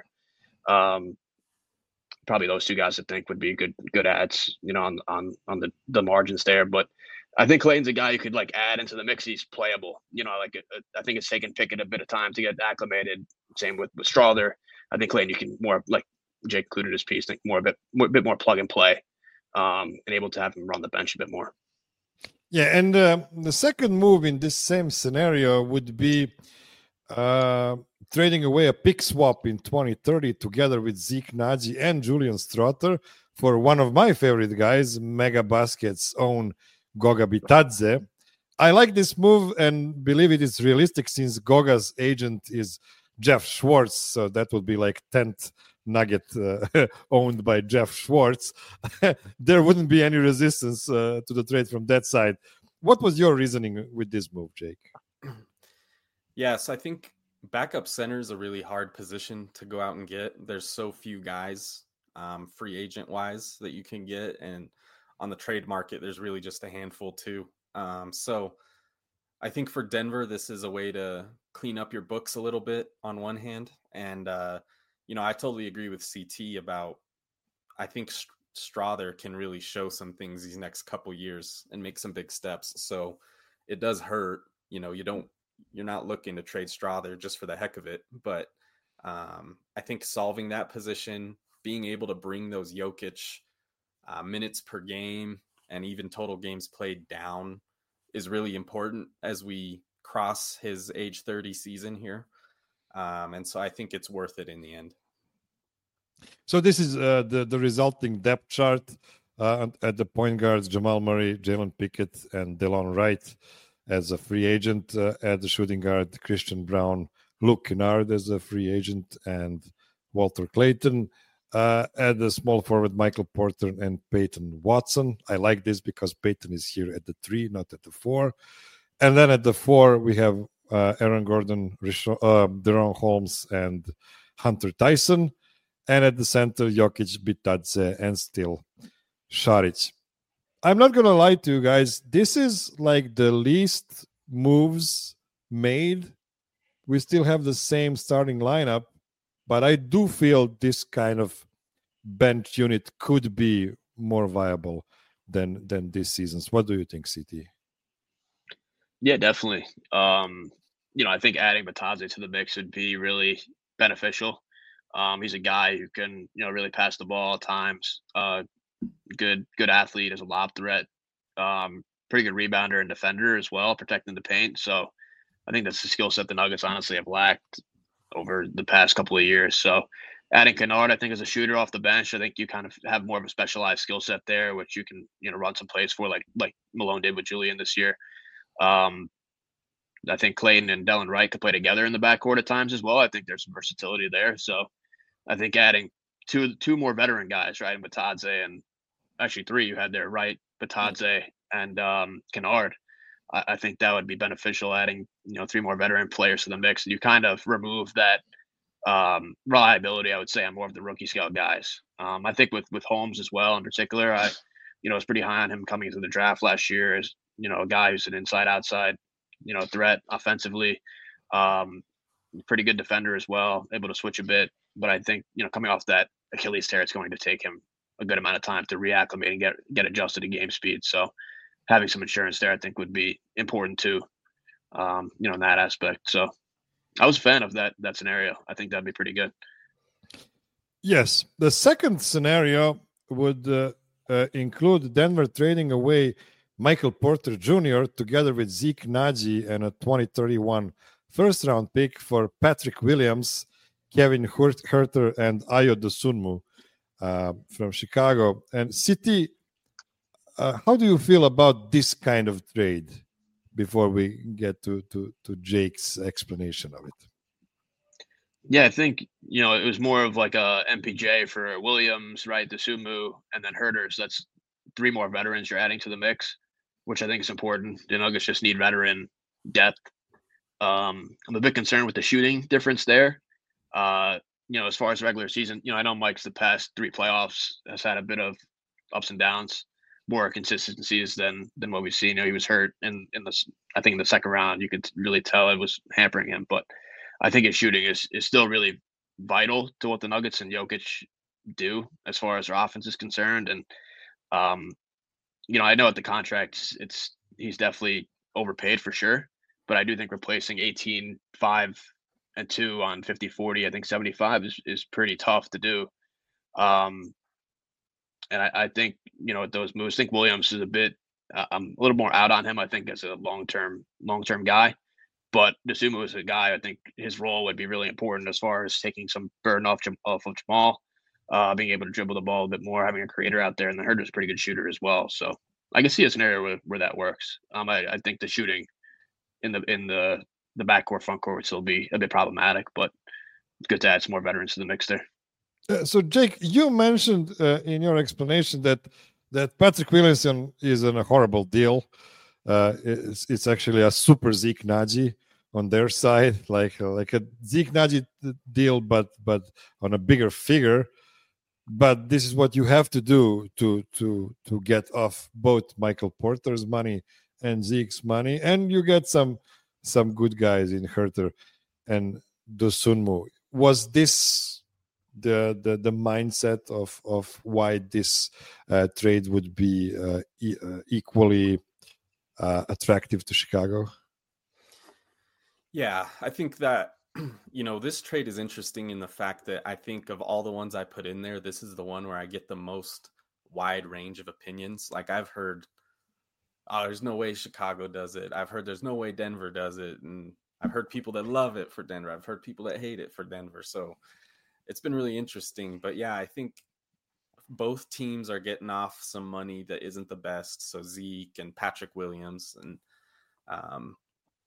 C: Um, probably those two guys I think would be good good adds, you know, on on on the the margins there. But I think Clayton's a guy you could like add into the mix. He's playable. You know, like uh, I think it's taken Pickett a bit of time to get acclimated. Same with with Strawther. I think Clayton you can more, like Jake included his piece, think more a bit more, a bit more plug and play, um, and able to have him run the bench a bit more.
A: Yeah, and uh, the second move in this same scenario would be uh, trading away a pick swap in twenty thirty together with Zeke Naji and Julian Strawther for one of my favorite guys, Mega Basket's own Goga Bitadze. I like this move and believe it is realistic since Goga's agent is Jeff Schwartz, so that would be like tenth Nugget uh, owned by Jeff Schwartz. There wouldn't be any resistance uh, to the trade from that side. What was your reasoning with this move, Jake?
B: Yes, I think backup center is a really hard position to go out and get. There's so few guys um, free agent wise that you can get, and on the trade market, there's really just a handful too. Um, so I think for Denver, this is a way to clean up your books a little bit on one hand. And, uh, you know, I totally agree with C T about, I think Strawther can really show some things these next couple years and make some big steps. So it does hurt, you know, you don't, you're not looking to trade Strawther just for the heck of it. But um, I think solving that position, being able to bring those Jokic uh, minutes per game and even total games played down is really important as we cross his age thirty season here. Um, and so I think it's worth it in the end.
A: So this is uh, the, the resulting depth chart uh, at the point guards: Jamal Murray, Jalen Pickett, and Delon Wright as a free agent. Uh, at the shooting guard, Christian Brown, Luke Kennard as a free agent, and Walter Clayton. Uh, at the small forward, Michael Porter and Peyton Watson. I like this because Peyton is here at the three, not at the four. And then at the four, we have uh, Aaron Gordon, Rishon, uh, Deron Holmes, and Hunter Tyson. And at the center, Jokic, Bitadze, and still Šarić. I'm not going to lie to you guys. This is like the least moves made. We still have the same starting lineup, but I do feel this kind of bench unit could be more viable than than this season's. What do you think, C T?
C: Yeah, definitely. Um, you know, I think adding Bitadze to the mix would be really beneficial. Um, he's a guy who can, you know, really pass the ball at times. Uh, good, good athlete, as a lob threat. Um, pretty good rebounder and defender as well, protecting the paint. So I think that's the skill set the Nuggets honestly have lacked over the past couple of years. So adding Kennard, I think, as a shooter off the bench, I think you kind of have more of a specialized skill set there, which you can, you know, run some plays for, like like Malone did with Julian this year. Um, I think Clayton and Delon Wright could play together in the backcourt at times as well. I think there's some versatility there. So I think adding two two more veteran guys, right, and Bitadze, and actually three you had there, right, Bitadze and um, Kennard. I, I think that would be beneficial, adding, you know, three more veteran players to the mix. You kind of remove that um, reliability, I would say, on more of the rookie scale guys. Um, I think with with Holmes as well in particular, I, you know, was pretty high on him coming into the draft last year as, you know, a guy who's an inside outside, you know, threat offensively. Um, pretty good defender as well, able to switch a bit. But I think, you know, coming off that Achilles tear, it's going to take him a good amount of time to reacclimate and get get adjusted to game speed. So having some insurance there, I think, would be important too, um, you know, in that aspect. So I was a fan of that that scenario. I think that'd be pretty good.
A: Yes. The second scenario would uh, uh, include Denver trading away Michael Porter Junior together with Zeke Nnaji and a twenty thirty-one first-round pick for Patrick Williams, Kevin Huerter, and Ayo Dosunmu uh, from Chicago. And City, uh, how do you feel about this kind of trade before we get to, to, to Jake's explanation of it?
C: Yeah, I think, you know, it was more of like a M P J for Williams, right, Dosunmu, and then Huerter. So that's three more veterans you're adding to the mix, which I think is important. The Nuggets just need veteran depth. Um, I'm a bit concerned with the shooting difference there. Uh, you know, as far as regular season, you know, I know Mike's the past three playoffs has had a bit of ups and downs, more consistencies than than what we've seen. You know, he was hurt in in the I think in the second round. You could really tell it was hampering him, but I think his shooting is is still really vital to what the Nuggets and Jokic do as far as their offense is concerned. And um, you know, I know at the contract, it's he's definitely overpaid for sure. But I do think replacing eighteen, five, and two on fifty forty, I think seventy-five is, is pretty tough to do. Um, and I, I think, you know, those moves, I think Williams is a bit, uh, I'm a little more out on him, I think, as a long-term, long-term guy. But Dosunmu is a guy, I think his role would be really important as far as taking some burden off, off of Jamal, uh, being able to dribble the ball a bit more, having a creator out there. And the Huerter's a pretty good shooter as well. So I can see a scenario where, where that works. Um, I, I think the shooting in the in the the backcourt front court would still be a bit problematic, but it's good to add some more veterans to the mix there.
A: Uh, so Jake, you mentioned uh, in your explanation that that Patrick Williamson is in a horrible deal. Uh, it's, it's actually a super Zeke Nnaji on their side, like like a Zeke Nnaji deal, but but on a bigger figure. But this is what you have to do to to to get off both Michael Porter's money and Zeke's money, and you get some some good guys in Huerter and Dosunmu. Was this the the, the mindset of of why this uh, trade would be uh, e- uh, equally uh, attractive to Chicago?
B: Yeah, I think that, you know, this trade is interesting in the fact that I think of all the ones I put in there, this is the one where I get the most wide range of opinions. Like I've heard oh, there's no way Chicago does it. I've heard there's no way Denver does it. And I've heard people that love it for Denver. I've heard people that hate it for Denver. So it's been really interesting. But yeah, I think both teams are getting off some money that isn't the best. So Zeke and Patrick Williams. And, um,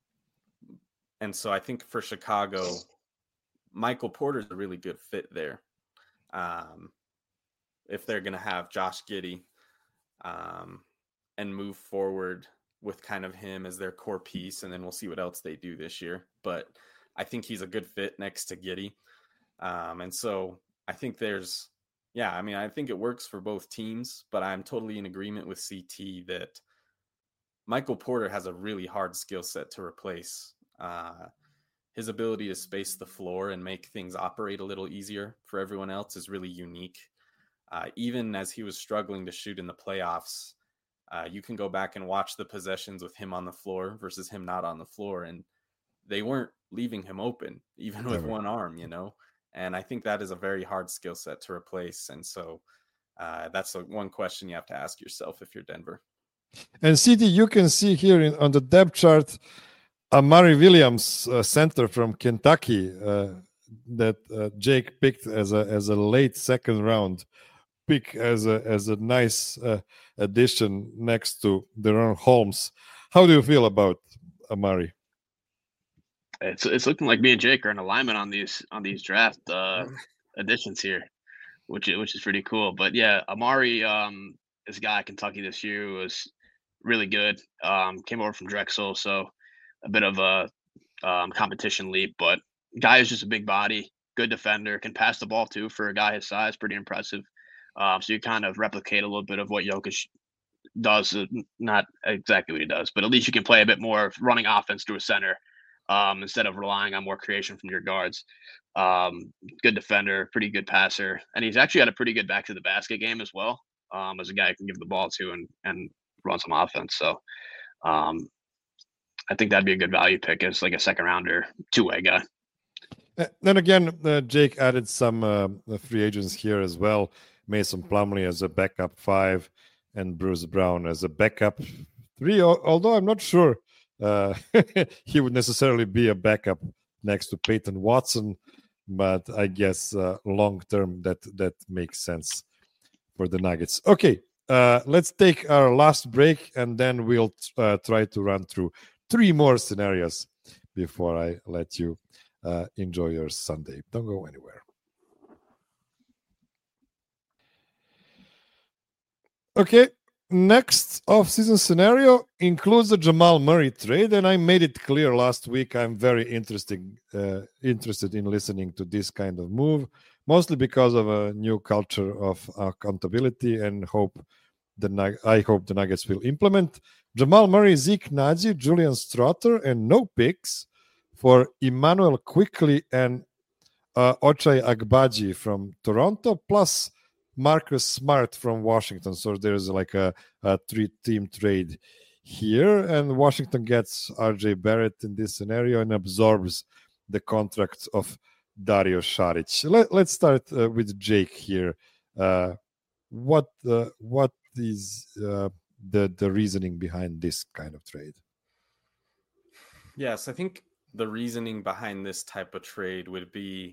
B: and so I think for Chicago, Michael Porter's a really good fit there. Um, if they're going to have Josh Giddey, um, and move forward with kind of him as their core piece. And then we'll see what else they do this year. But I think he's a good fit next to Giddey. Um, and so I think there's, yeah, I mean, I think it works for both teams, but I'm totally in agreement with C T that Michael Porter has a really hard skill set to replace. Uh, his ability to space the floor and make things operate a little easier for everyone else is really unique. Uh, even as he was struggling to shoot in the playoffs, uh, you can go back and watch the possessions with him on the floor versus him not on the floor. And they weren't leaving him open, even with one arm, you know? And I think that is a very hard skill set to replace. And so uh, that's a, one question you have to ask yourself if you're Denver.
A: And C T, you can see here in, on the depth chart, Amari Williams, uh, center from Kentucky, uh, that uh, Jake picked as a as a late second round pick, as a as a nice uh, addition next to Deron Holmes. How do you feel about Amari?
C: It's it's looking like me and Jake are in alignment on these on these draft uh, additions here, which is, which is pretty cool. But yeah, Amari, um, this guy at Kentucky this year was really good. Um, came over from Drexel, so a bit of a um, competition leap. But guy is just a big body, good defender, can pass the ball too for a guy his size, pretty impressive. Um, so you kind of replicate a little bit of what Jokic does, not exactly what he does, but at least you can play a bit more running offense through a center. Um, instead of relying on more creation from your guards. Um, good defender, pretty good passer. And he's actually had a pretty good back to the basket game as well, um, as a guy who can give the ball to and, and run some offense. So um, I think that'd be a good value pick as like a second rounder, two-way guy.
A: Then again, uh, Jake added some uh, free agents here as well. Mason Plumlee as a backup five and Bruce Brown as a backup three, although I'm not sure Uh, he would necessarily be a backup next to Peyton Watson, but I guess uh, long term that that makes sense for the Nuggets. Okay, uh, let's take our last break and then we'll uh, try to run through three more scenarios before I let you uh, enjoy your Sunday. Don't go anywhere. Okay. Next off-season scenario includes the Jamal Murray trade, and I made it clear last week I'm very interested uh, interested in listening to this kind of move, mostly because of a new culture of accountability and hope the I hope the Nuggets will implement. Jamal Murray, Zeke Nnaji, Julian Stroughter, and no picks for Emmanuel Quickley and uh, Ochai Agbaji from Toronto, plus Marcus Smart from Washington. So there's like a, a three-team trade here, and Washington gets R J Barrett in this scenario and absorbs the contract of Dario Saric. Let, let's start uh, with Jake here. Uh, what uh, what is uh, the the reasoning behind this kind of trade?
B: Yes, I think the reasoning behind this type of trade would be,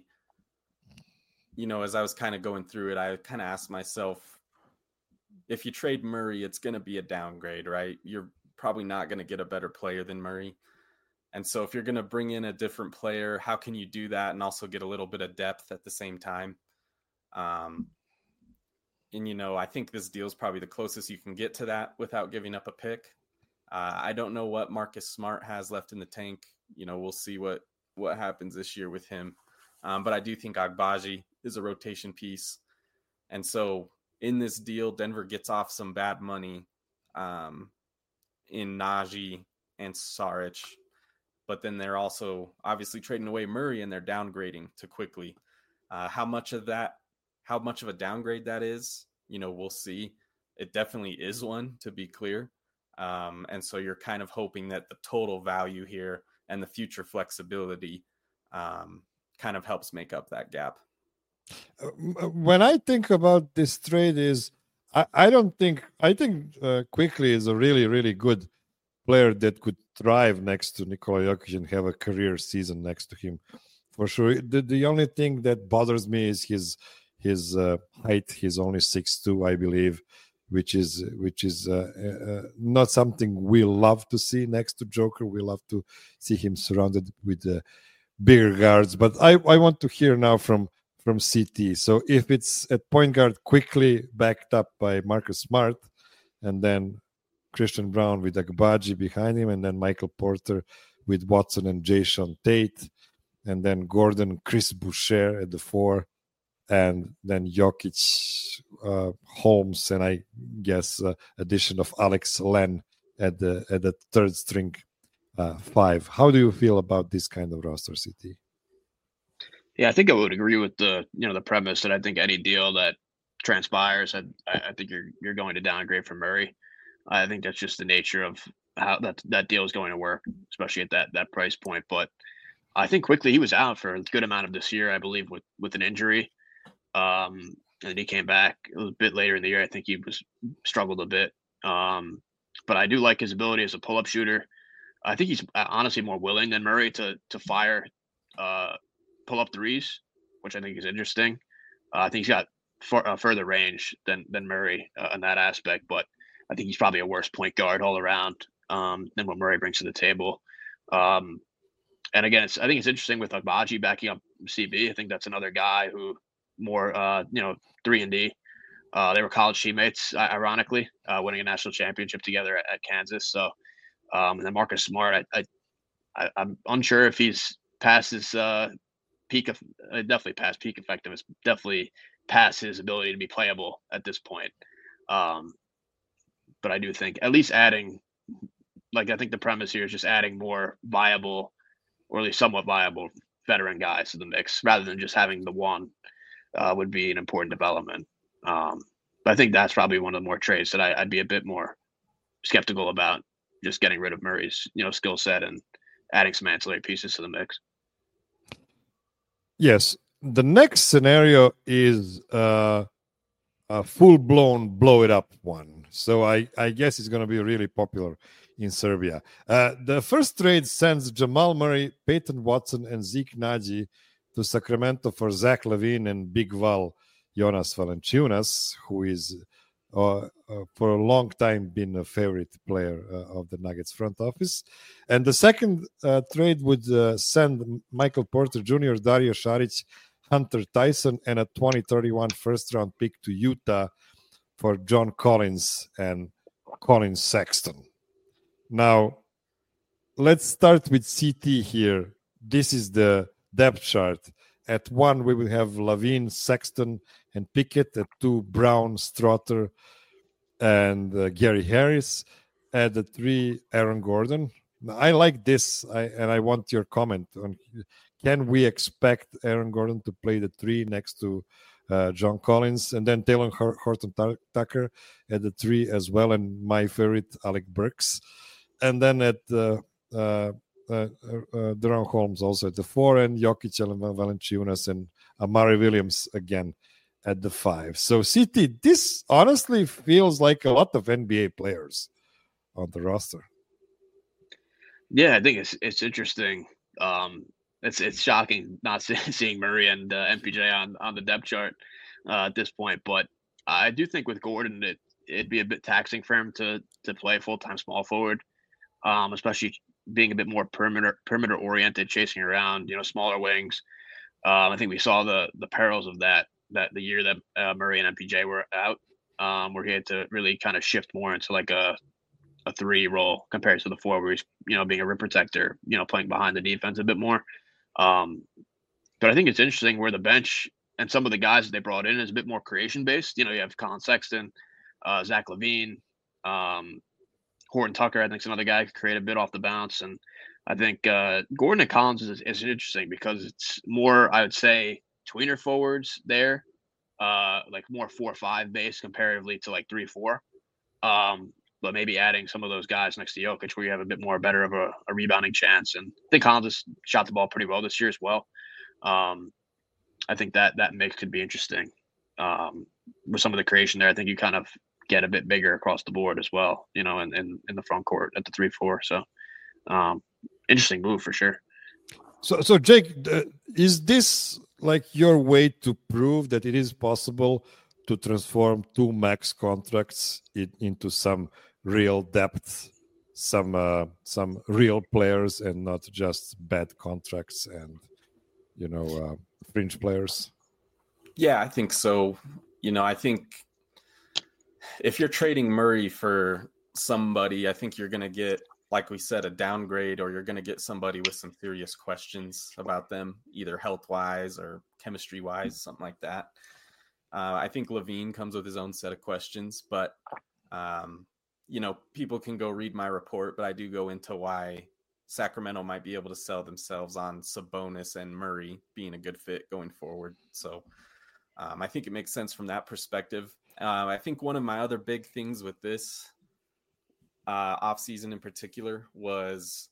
B: you know, as I was kind of going through it, I kind of asked myself, if you trade Murray, it's going to be a downgrade, right? You're probably not going to get a better player than Murray. And so if you're going to bring in a different player, how can you do that and also get a little bit of depth at the same time? Um, and, you know, I think this deal is probably the closest you can get to that without giving up a pick. Uh, I don't know what Marcus Smart has left in the tank. You know, we'll see what, what happens this year with him. Um, but I do think Agbaji is a rotation piece. And so in this deal, Denver gets off some bad money um, in Nnaji and Saric. But then they're also obviously trading away Murray and they're downgrading to Quickley. Uh, how much of that, how much of a downgrade that is, you know, we'll see. It definitely is one, to be clear. Um, and so you're kind of hoping that the total value here and the future flexibility um, kind of helps make up that gap.
A: When I think about this trade is I, I don't think I think uh, Quickly is a really really good player that could thrive next to Nikola Jokic and have a career season next to him for sure. The the only thing that bothers me is his his uh, height. He's only six two, I believe, which is which is uh, uh, not something we love to see next to Joker. We love to see him surrounded with uh, bigger guards. But I, I want to hear now from from C T. So if it's at point guard, Quickly backed up by Marcus Smart, and then Christian Brown with Agbaji behind him, and then Michael Porter with Watson and Jason Tate, and then Gordon, Chris Boucher at the four, and then Jokic, uh, Holmes, and I guess uh, addition of Alex Len at the at the third string uh, five. How do you feel about this kind of roster, C T?
C: Yeah, I think I would agree with the you know the premise that I think any deal that transpires, I, I think you're you're going to downgrade from Murray. I think that's just the nature of how that that deal is going to work, especially at that that price point. But I think Quickly he was out for a good amount of this year, I believe, with with an injury. Um, and he came back a bit later in the year. I think he was struggled a bit. Um, but I do like his ability as a pull-up shooter. I think he's honestly more willing than Murray to to fire uh, pull-up threes, which I think is interesting. Uh, I think he's got far, uh, further range than than Murray uh, in that aspect, but I think he's probably a worse point guard all around um, than what Murray brings to the table. Um, and again, it's, I think it's interesting with Agbaji backing up C B. I think that's another guy who more, uh, you know, three and D. Uh, they were college teammates, ironically, uh, winning a national championship together at, at Kansas. So, um, and then Marcus Smart, I, I, I'm unsure if he's past his uh, peak of, uh, definitely past peak effectiveness, definitely past his ability to be playable at this point. Um, but I do think at least adding, like, I think the premise here is just adding more viable, or at least somewhat viable veteran guys to the mix rather than just having the one uh, would be an important development. Um, but I think that's probably one of the more trades that I, I'd be a bit more skeptical about, just getting rid of Murray's, you know, skill set and adding some ancillary pieces to the mix.
A: Yes. The next scenario is uh, a full-blown blow-it-up one. So I, I guess it's going to be really popular in Serbia. Uh, the first trade sends Jamal Murray, Peyton Watson, and Zeke Naji to Sacramento for Zach LaVine and Big Val Jonas Valanciunas, who is uh, uh, for a long time been a favorite player uh, of the Nuggets front office. And the second uh, trade would uh, send Michael Porter Junior, Dario Saric, Hunter Tyson, and a twenty thirty-one first-round pick to Utah for John Collins and Colin Sexton. Now, let's start with C T here. This is the depth chart. At one, we will have LaVine, Sexton, and Pickett. At two, Brown, Strother, and uh, Gary Harris. At the three, Aaron Gordon. I like this, I, and I want your comment on, can we expect Aaron Gordon to play the three next to uh, John Collins, and then Taylor Horton Tucker at the three as well, and my favorite, Alec Burks. And then at uh, uh, uh, uh, Deron Holmes also at the four, and Jokic, and Valanciunas, and Amari Williams again at the five. So C T, this honestly feels like a lot of N B A players on the roster.
C: Yeah, I think it's it's interesting. Um, it's it's shocking not seeing Murray and uh, M P J on on the depth chart uh, at this point, but I do think with Gordon, it it'd be a bit taxing for him to to play full time small forward, um, especially being a bit more perimeter perimeter oriented, chasing around, you know, smaller wings. Um, I think we saw the the perils of that that the year that uh, Murray and M P J were out, um, where he had to really kind of shift more into like a a three role compared to the four, where he's, you know, being a rim protector, you know, playing behind the defense a bit more. Um, but I think it's interesting where the bench and some of the guys that they brought in is a bit more creation based. You know, you have Colin Sexton, uh, Zach LaVine, um, Horton Tucker. I think some other guy could create a bit off the bounce. And I think uh, Gordon and Collins is, is interesting because it's more, I would say, tweener forwards there, uh, like more four five base comparatively to like three four. Um, but maybe adding some of those guys next to Jokic where you have a bit more better of a, a rebounding chance. And I think Collins has shot the ball pretty well this year as well. Um, I think that that mix could be interesting. Um, with some of the creation there, I think you kind of get a bit bigger across the board as well, you know, in, in, in the front court at the three four. So um, interesting move for sure.
A: So, so Jake, uh, is this like your way to prove that it is possible to transform two max contracts in, into some real depth, some uh, some real players, and not just bad contracts and, you know, uh, fringe players?
B: Yeah, I think so. You know, I think if you're trading Murray for somebody, I think you're going to get, like we said, a downgrade, or you're going to get somebody with some serious questions about them, either health-wise or chemistry-wise, something like that. Uh, I think LaVine comes with his own set of questions, but, um, you know, people can go read my report, but I do go into why Sacramento might be able to sell themselves on Sabonis and Murray being a good fit going forward. So um, I think it makes sense from that perspective. Uh, I think one of my other big things with this uh, offseason in particular was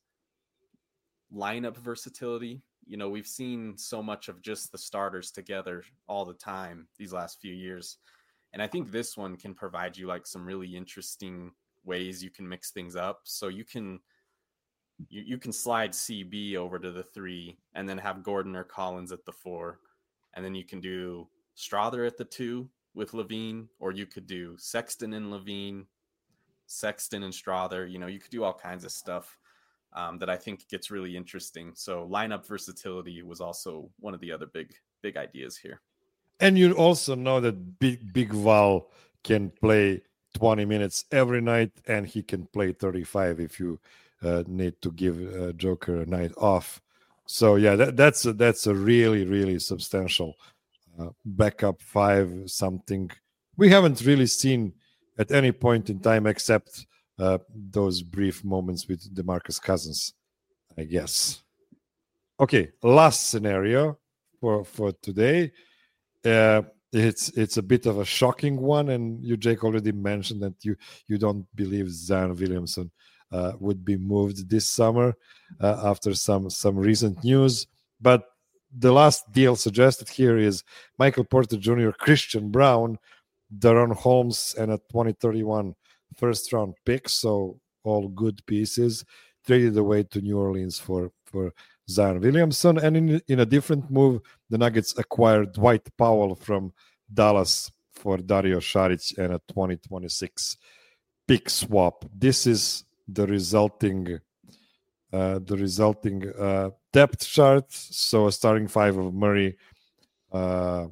B: lineup versatility. You know, we've seen so much of just the starters together all the time these last few years. And I think this one can provide you like some really interesting ways you can mix things up. So you can you, you can slide C B over to the three and then have Gordon or Collins at the four. And then you can do Strawther at the two with LaVine, or you could do Sexton and LaVine, Sexton and Strawther. You know, you could do all kinds of stuff um, that I think gets really interesting. So lineup versatility was also one of the other big, big ideas here.
A: And you also know that Big Big Val can play twenty minutes every night, and he can play thirty-five if you uh, need to give uh, Joker a night off. So yeah, that, that's a, that's a really really substantial uh, backup five. Something we haven't really seen at any point in time, except uh, those brief moments with DeMarcus Cousins, I guess. Okay, last scenario for for today. Uh, it's it's a bit of a shocking one, and you, Jake, already mentioned that you you don't believe Zion Williamson uh, would be moved this summer uh, after some some recent news. But the last deal suggested here is Michael Porter Junior, Christian Brown, Daron Holmes, and a twenty thirty-one first round pick. So all good pieces traded away to New Orleans for for Zion Williamson. And in, in a different move, the Nuggets acquired Dwight Powell from Dallas for Dario Saric and a twenty twenty-six pick swap. This is the resulting uh, the resulting uh, depth chart. So a starting five of Murray. Uh,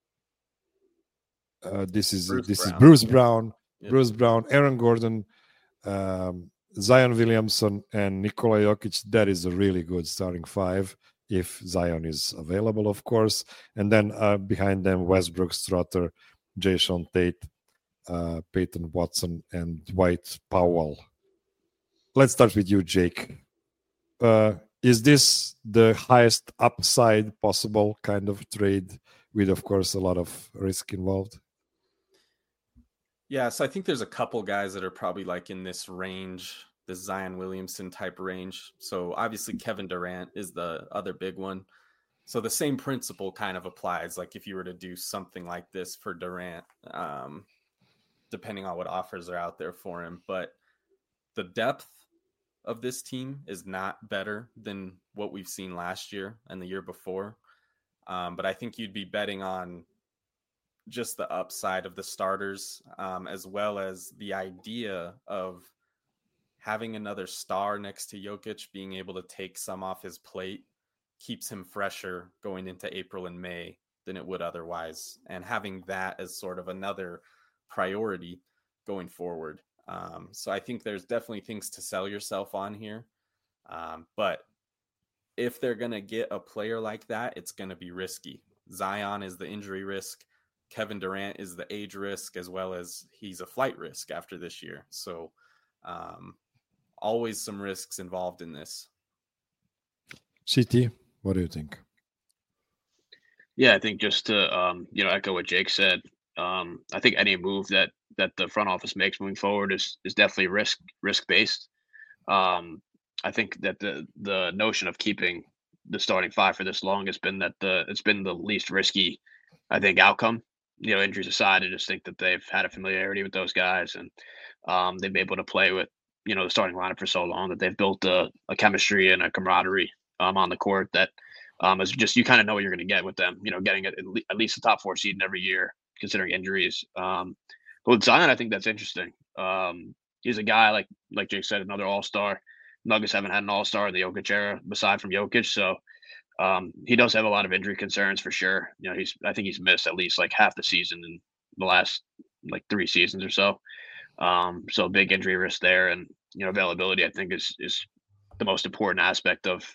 A: uh, this is
B: Bruce
A: this
B: Brown.
A: is Bruce Brown,
B: Yeah.
A: Bruce Brown, Aaron Gordon, um, Zion Williamson, and Nikola Jokic. That is a really good starting five if Zion is available, of course. And then uh, behind them, Westbrook, Strawther, Jason Tate, uh, Peyton Watson, and Dwight Powell. Let's start with you, Jake. Uh, is this the highest upside possible kind of trade with, of course, a lot of risk involved?
B: Yeah, so I think there's a couple guys that are probably like in this range, the Zion Williamson type range. So obviously Kevin Durant is the other big one. So the same principle kind of applies. Like if you were to do something like this for Durant, um, depending on what offers are out there for him. But the depth of this team is not better than what we've seen last year and the year before. Um, but I think you'd be betting on just the upside of the starters, um, as well as the idea of having another star next to Jokic, being able to take some off his plate, keeps him fresher going into April and May than it would otherwise. And having that as sort of another priority going forward. Um, so I think there's definitely things to sell yourself on here. Um, but if they're going to get a player like that, it's going to be risky. Zion is the injury risk. Kevin Durant is the age risk, as well as he's a flight risk after this year. So um, always some risks involved in this.
A: C T, what do you think?
C: Yeah, I think just to um, you know echo what Jake said, um, I think any move that that the front office makes moving forward is is definitely risk risk based. Um, I think that the the notion of keeping the starting five for this long has been that the it's been the least risky, I think, outcome you know, injuries aside, I just think that they've had a familiarity with those guys, and um, they've been able to play with, you know, the starting lineup for so long that they've built a, a chemistry and a camaraderie um, on the court that um, is just, you kind of know what you're going to get with them. You know, getting at, at least a top four seed every year, considering injuries. Um, but with Zion, I think that's interesting. Um, he's a guy like like Jake said, another All Star. Nuggets haven't had an All Star in the Jokic era aside from Jokic, so um, he does have a lot of injury concerns for sure. You know, he's I think he's missed at least like half the season in the last like three seasons or so. Um, so big injury risk there, and you know, availability I think is is the most important aspect of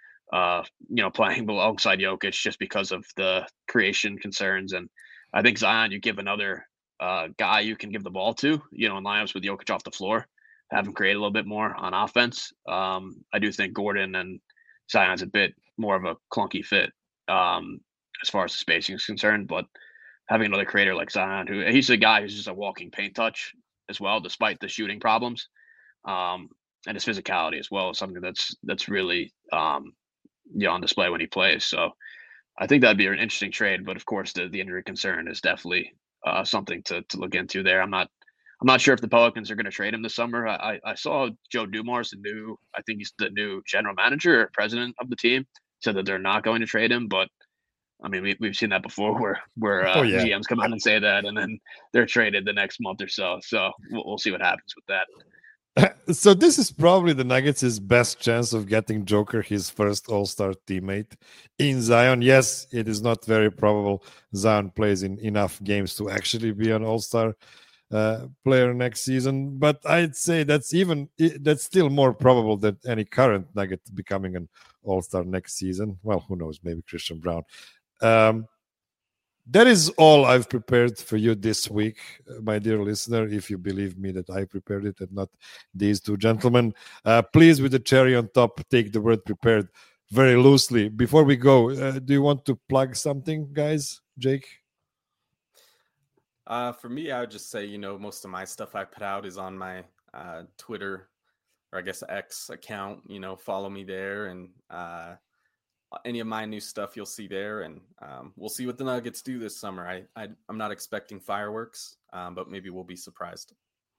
C: uh, you know, playing alongside Jokic just because of the creation concerns. And I think Zion, you give another uh, guy you can give the ball to, you know, in lineups with Jokic off the floor, have him create a little bit more on offense. Um, I do think Gordon and Zion's a bit more of a clunky fit um, as far as the spacing is concerned, but having another creator like Zion, who he's a guy who's just a walking paint touch as well, despite the shooting problems, um, and his physicality as well is something that's that's really um, you know, on display when he plays. So I think that'd be an interesting trade, but of course the the injury concern is definitely uh, something to to look into there. I'm not I'm not sure if the Pelicans are going to trade him this summer. I, I saw Joe Dumars, the new, I think he's the new general manager or president of the team, said that they're not going to trade him. But I mean, we, we've seen that before where, where uh, oh, yeah. G Ms come out and say that, and then they're traded the next month or so. So we'll, we'll see what happens with that.
A: So this is probably the Nuggets' best chance of getting Joker his first All-Star teammate in Zion. Yes, it is not very probable Zion plays in enough games to actually be an All-Star Uh, player next season, but I'd say that's even that's still more probable than any current Nugget becoming an All-Star next season. Well, who knows? Maybe Christian Braun. Um, that is all I've prepared for you this week, my dear listener. If you believe me that I prepared it and not these two gentlemen, uh, please, with the cherry on top, take the word "prepared" very loosely. Before we go, uh, do you want to plug something, guys? Jake?
B: Uh, for me, I would just say, you know, most of my stuff I put out is on my uh, Twitter, or I guess X account. You know, follow me there, and uh, any of my new stuff you'll see there. And um, we'll see what the Nuggets do this summer. I, I I'm not expecting fireworks, um, but maybe we'll be surprised.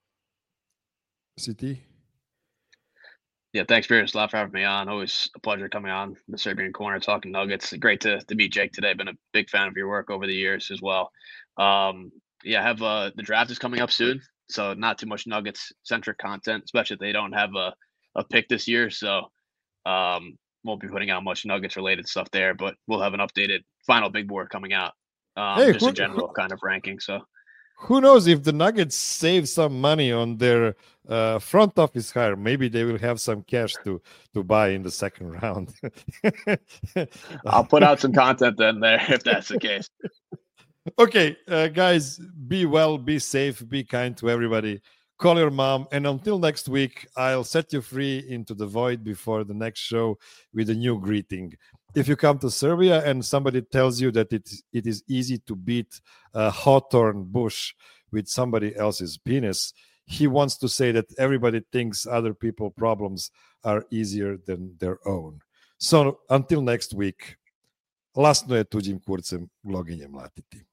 A: C T.
C: Yeah, thanks, Beers, a lot for having me on. Always a pleasure coming on the Serbian Corner talking Nuggets. Great to to meet Jake today. Been a big fan of your work over the years as well. Um, Yeah, have uh, the draft is coming up soon, so not too much Nuggets centric content, especially if they don't have a, a pick this year. So um, won't be putting out much Nuggets related stuff there, but we'll have an updated final big board coming out. Um, hey, just who, a general who, kind of ranking. So
A: who knows if the Nuggets save some money on their uh, front office hire, maybe they will have some cash to to buy in the second round.
C: I'll put out some content then there if that's the case.
A: Okay, uh, guys, be well, be safe, be kind to everybody. Call your mom. And until next week, I'll set you free into the void before the next show with a new greeting. If you come to Serbia and somebody tells you that it, it is easy to beat a hawthorn bush with somebody else's penis, he wants to say that everybody thinks other people's problems are easier than their own. So until next week, lasno je tuđim kurcem gloginje mlatiti.